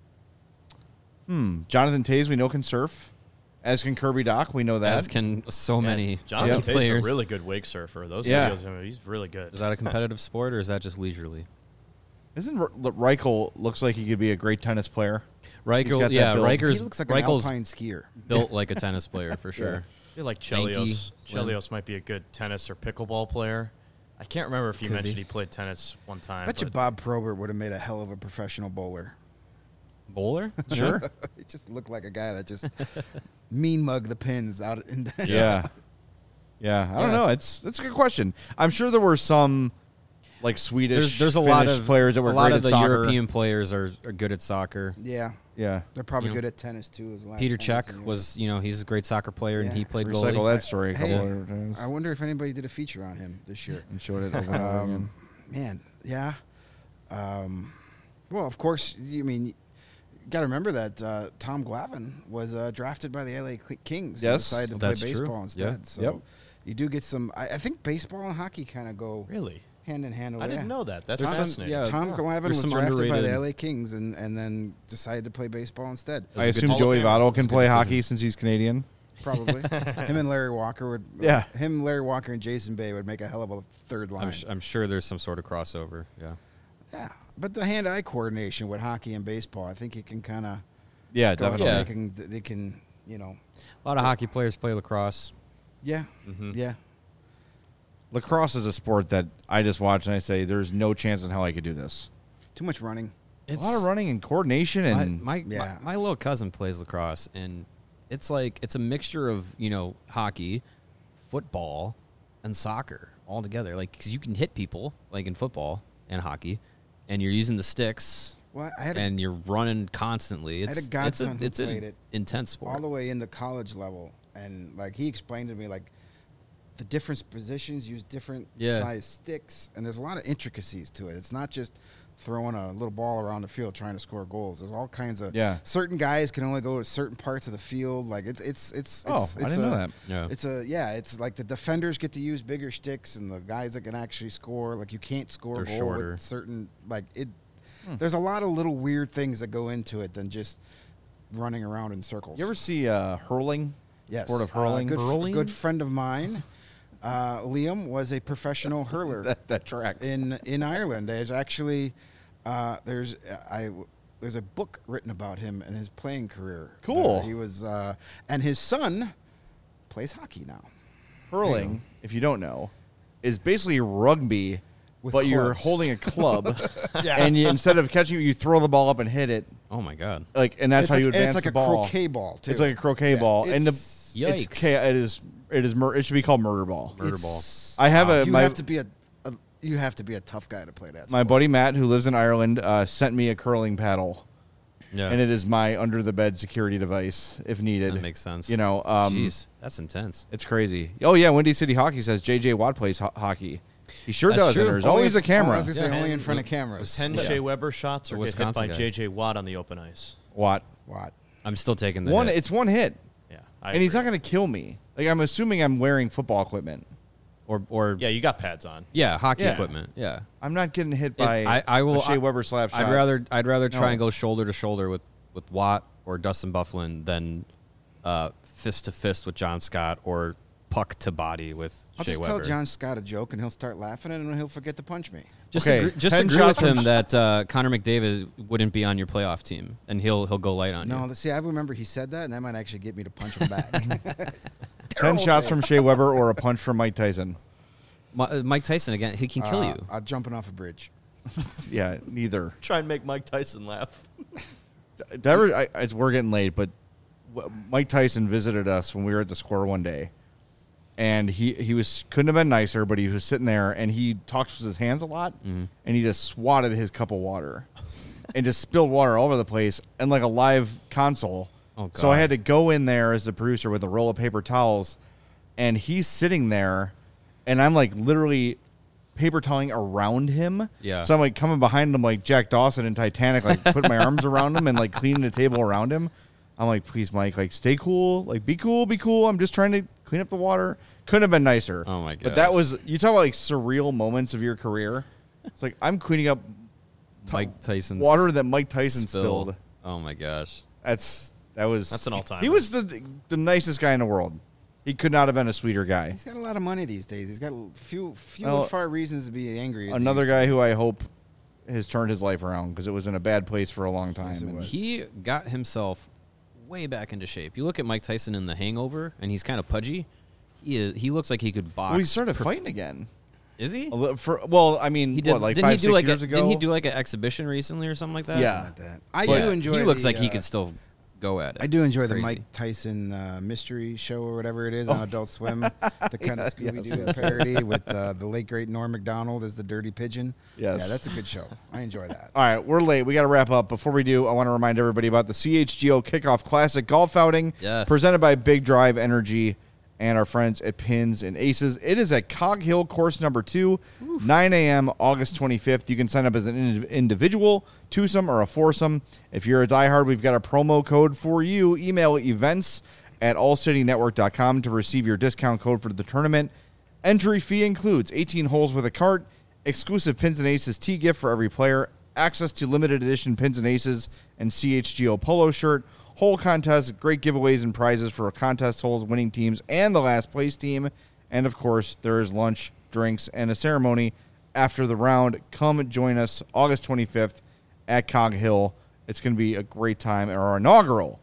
Hmm. Jonathan Tays, we know, can surf. As can Kirby Doc, we know that. As can so many Jonathan hockey Tate's players. a really good wake surfer. Those Yeah. videos, I mean, he's really good. Is that a competitive sport or is that just leisurely? Isn't R- Reichel looks like he could be a great tennis player? He's Riker, got that yeah, build. Riker's he looks like an Reichels alpine skier. built like a tennis player for sure. I feel like Lanky, Chelios. slim. Chelios might be a good tennis or pickleball player. I can't remember if you Could mentioned be. he played tennis one time. Bet you but Bob Probert would have made a hell of a professional bowler. Bowler? Sure. He just looked like a guy that just mean mug the pins out in the Yeah. Yeah, I don't Yeah. know. It's it's a good question. I'm sure there were some like Swedish, There's, there's a lot Finnish of players that were a lot great of at the soccer. European players are, are good at soccer. Yeah, Yeah, they're probably You know. good at tennis too. As well. Peter Tennis Cech in Europe. was, you know, he's a great soccer player, and Yeah. he played recycle goalie. that story a Hey, couple of times I wonder if anybody did a feature on him this year. and showed it over and over again. Um, man, yeah. Um, well, of course, you mean you got to remember that uh, Tom Glavine was uh, drafted by the L A Cl- Kings. and Yes, decided to that's play true. baseball instead. Yeah. So Yep. you do get some. I, I think baseball and hockey kind of go Really? hand in hand. I didn't know that. That's There's some- fascinating. yeah. Tom Huh. Glavine There's was some drafted by the underrated- L A Kings and, and then decided to play baseball instead. I That's a good assume Hall of Joey Famer. Votto That's can a good play decision. hockey since he's Canadian. Probably him and Larry Walker would. Yeah. him, Larry Walker, and Jason Bay would make a hell of a third line. I'm, sh- I'm sure there's some sort of crossover. Yeah. Yeah, but the hand-eye coordination with hockey and baseball, I think it can kind of. Yeah, definitely. Yeah. They can, they can, you know. A lot of hockey players play lacrosse. Yeah, Mhm. yeah. Lacrosse is a sport that I just watch and I say, "There's no chance in hell I could do this." Too much running. a lot of running and coordination, My, and my, Yeah. my my little cousin plays lacrosse, and it's like it's a mixture of, you know, hockey, football, and soccer all together. Like, because you can hit people like in football and hockey, and you're using the sticks, Well, I had a, and you're running constantly. had It's a godson it's who a, it's an played it intense sport. all the way in the college level, and like he explained to me, like the different positions use different Yeah. size sticks, and there's a lot of intricacies to it. It's not just throwing a little ball around the field trying to score goals. There's all kinds of Yeah. Certain guys can only go to certain parts of the field. Like it's it's it's. Oh, it's, I it's didn't a, know that. Yeah. It's a yeah. It's like the defenders get to use bigger sticks, and the guys that can actually score. Like you can't score a They're goal shorter. with certain like it. Hmm. There's a lot of little weird things that go into it than just running around in circles. you ever see uh, hurling? Yes. Sport of Uh, hurling. good, f- Hurling? good friend of mine, uh, Liam, was a professional hurler that that tracks. in in Ireland. There's actually uh, there's I there's a book written about him and his playing career. Cool. Uh, he was uh, and his son plays hockey now. Hurling, if you don't know, is basically rugby, With but you're clubs. holding a club, and you, instead of catching it, you throw the ball up and hit it, Oh my god. like, and that's It's how like, you and advance it's like the a ball. croquet ball too. It's like a croquet Yeah, ball, and the it's- it's Yikes. cha- it is it is mur- it should be called murder ball. Murder it's- I have a you my have to be a, a you have to be a tough guy to play that. my sport. buddy Matt, who lives in Ireland, uh, sent me a curling paddle, Yeah. and it is my under the bed security device if needed. That makes sense. You know, um, Jeez, that's intense. it's crazy. Oh yeah, Windy City Hockey says J J Watt plays ho- hockey. He sure That's does. true. And there's Only always if- a camera. I was gonna say Yeah. only in And front of with- cameras. Ten Yeah. Shea Weber shots The or get hit Wisconsin by guy. J J Watt on the open ice. Watt. What? I'm still taking the One. hit. It's one hit, Yeah, I and he's agree. not going to kill me. Like I'm assuming I'm wearing football equipment. or or Yeah, you got pads on. yeah, hockey Yeah. equipment. Yeah. I'm not getting hit It- by I, I will. a Shea I- Weber slap shot. I'd rather I'd rather try No. and go shoulder to shoulder with, with Watt or Dustin Bufflin than uh, fist to fist with John Scott or puck to body with I'll Shea just Weber. tell John Scott a joke and he'll start laughing and then he'll forget to punch me. Just Okay, agree, just ten agree with shots from him Sh- that uh, Connor McDavid wouldn't be on your playoff team, and he'll he'll go light on No, you. the- see, I remember he said that, and that might actually get me to punch him back. ten shots from Shea Weber or a punch from Mike Tyson. Mi- uh, Mike Tyson again, he can kill Uh, you. uh, jumping off a bridge. Yeah, neither. Try and make Mike Tyson laugh. That was- I, it's, we're getting late, but w- Mike Tyson visited us when we were at the Square one day, and he he was couldn't have been nicer, but he was sitting there and he talks with his hands a lot, Mm-hmm. and he just swatted his cup of water, and just spilled water all over the place, and like a live console. Oh, So I God. had to go in there as the producer with a roll of paper towels, and he's sitting there, and I'm like literally paper toweling around him. Yeah. So I'm like coming behind him like Jack Dawson in Titanic, like putting my arms around him and like cleaning the table around him. I'm like, please, Mike, like stay cool, like be cool, be cool. I'm just trying to clean up the water. Couldn't have been nicer. Oh, my But that gosh. was you talk about like surreal moments of your career. It's like I'm cleaning up Mike Tyson's water that Mike Tyson spill. spilled. Oh my gosh. That's that was That's an all-timer. He was the the nicest guy in the world. He could not have been a sweeter guy. He's got a lot of money these days. He's got few, few Well, and far reasons to be angry. as he Another used to guy be. who I hope has turned his life around because it was in a bad place for a long time. Yes, it And was. He got himself way back into shape. You look at Mike Tyson in The Hangover, and he's kind of pudgy. He is, he looks like he could box. well, he started prof- fighting again. Is he? A li- for well, I mean, He did. what, like didn't five, he do six like years a, ago? Didn't he do like an exhibition recently or something like that? Yeah. Like that. I But do enjoy. He looks the, like he uh, could still go at it. I do enjoy the Crazy. Mike Tyson uh, mystery show or whatever it is on Adult Swim, the kind of Yeah, Scooby yes, Doo yes. parody with uh, the late great Norm Macdonald as the Dirty Pigeon. Yes. Yeah, that's a good show. I enjoy that. All right, we're late. We got to wrap up. Before we do, I want to remind everybody about the C H G O Kickoff Classic Golf Outing Yes. presented by Big Drive Energy and our friends at Pins and Aces. It is at Cog Hill course number two, nine a.m. August twenty-fifth. You can sign up as an ind- individual, twosome, or a foursome. If you're a diehard, we've got a promo code for you. Email events at all city network dot com to receive your discount code for the tournament. Entry fee includes eighteen holes with a cart, exclusive Pins and Aces tee gift for every player, access to limited edition Pins and Aces and C H G O polo shirt, whole contest, great giveaways and prizes for contest holes, winning teams, and the last place team. And, of course, there is lunch, drinks, and a ceremony after the round. Come join us August twenty-fifth at Cog Hill. It's going to be a great time at our inaugural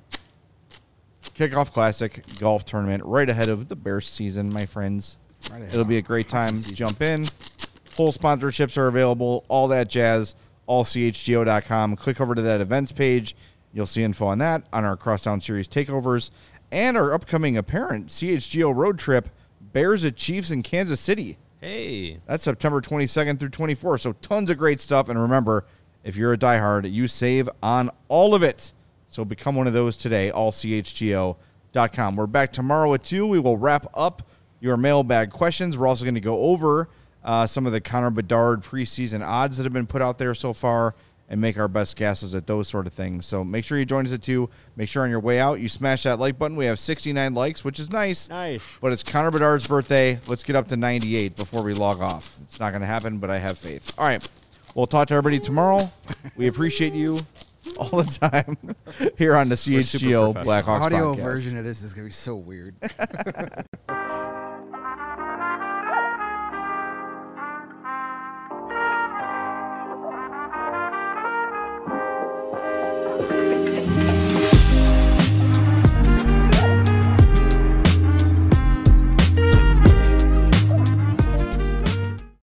Kickoff Classic golf tournament right ahead of the Bears season, my friends. Right ahead. It'll be a great time. Season. Jump in. Full sponsorships are available, all that jazz, all C H G O dot com. Click over to that events page. You'll see info on that, on our Crosstown Series takeovers, and our upcoming apparent C H G O road trip, Bears at Chiefs in Kansas City. Hey. That's September twenty-second through twenty-fourth. So tons of great stuff. And remember, if you're a diehard, you save on all of it. So become one of those today, all C H G O dot com. We're back tomorrow at two. We will wrap up your mailbag questions. We're also going to go over uh, some of the Connor Bedard preseason odds that have been put out there so far and make our best guesses at those sort of things. So make sure you join us at two. Make sure on your way out you smash that like button. We have sixty-nine likes, which is nice. Nice. But it's Connor Bedard's birthday. Let's get up to ninety-eight before we log off. It's not going to happen, but I have faith. All right. We'll talk to everybody tomorrow. We appreciate you all the time here on the C H G O We're super Blackhawks Audio podcast. version of this is going to be so weird.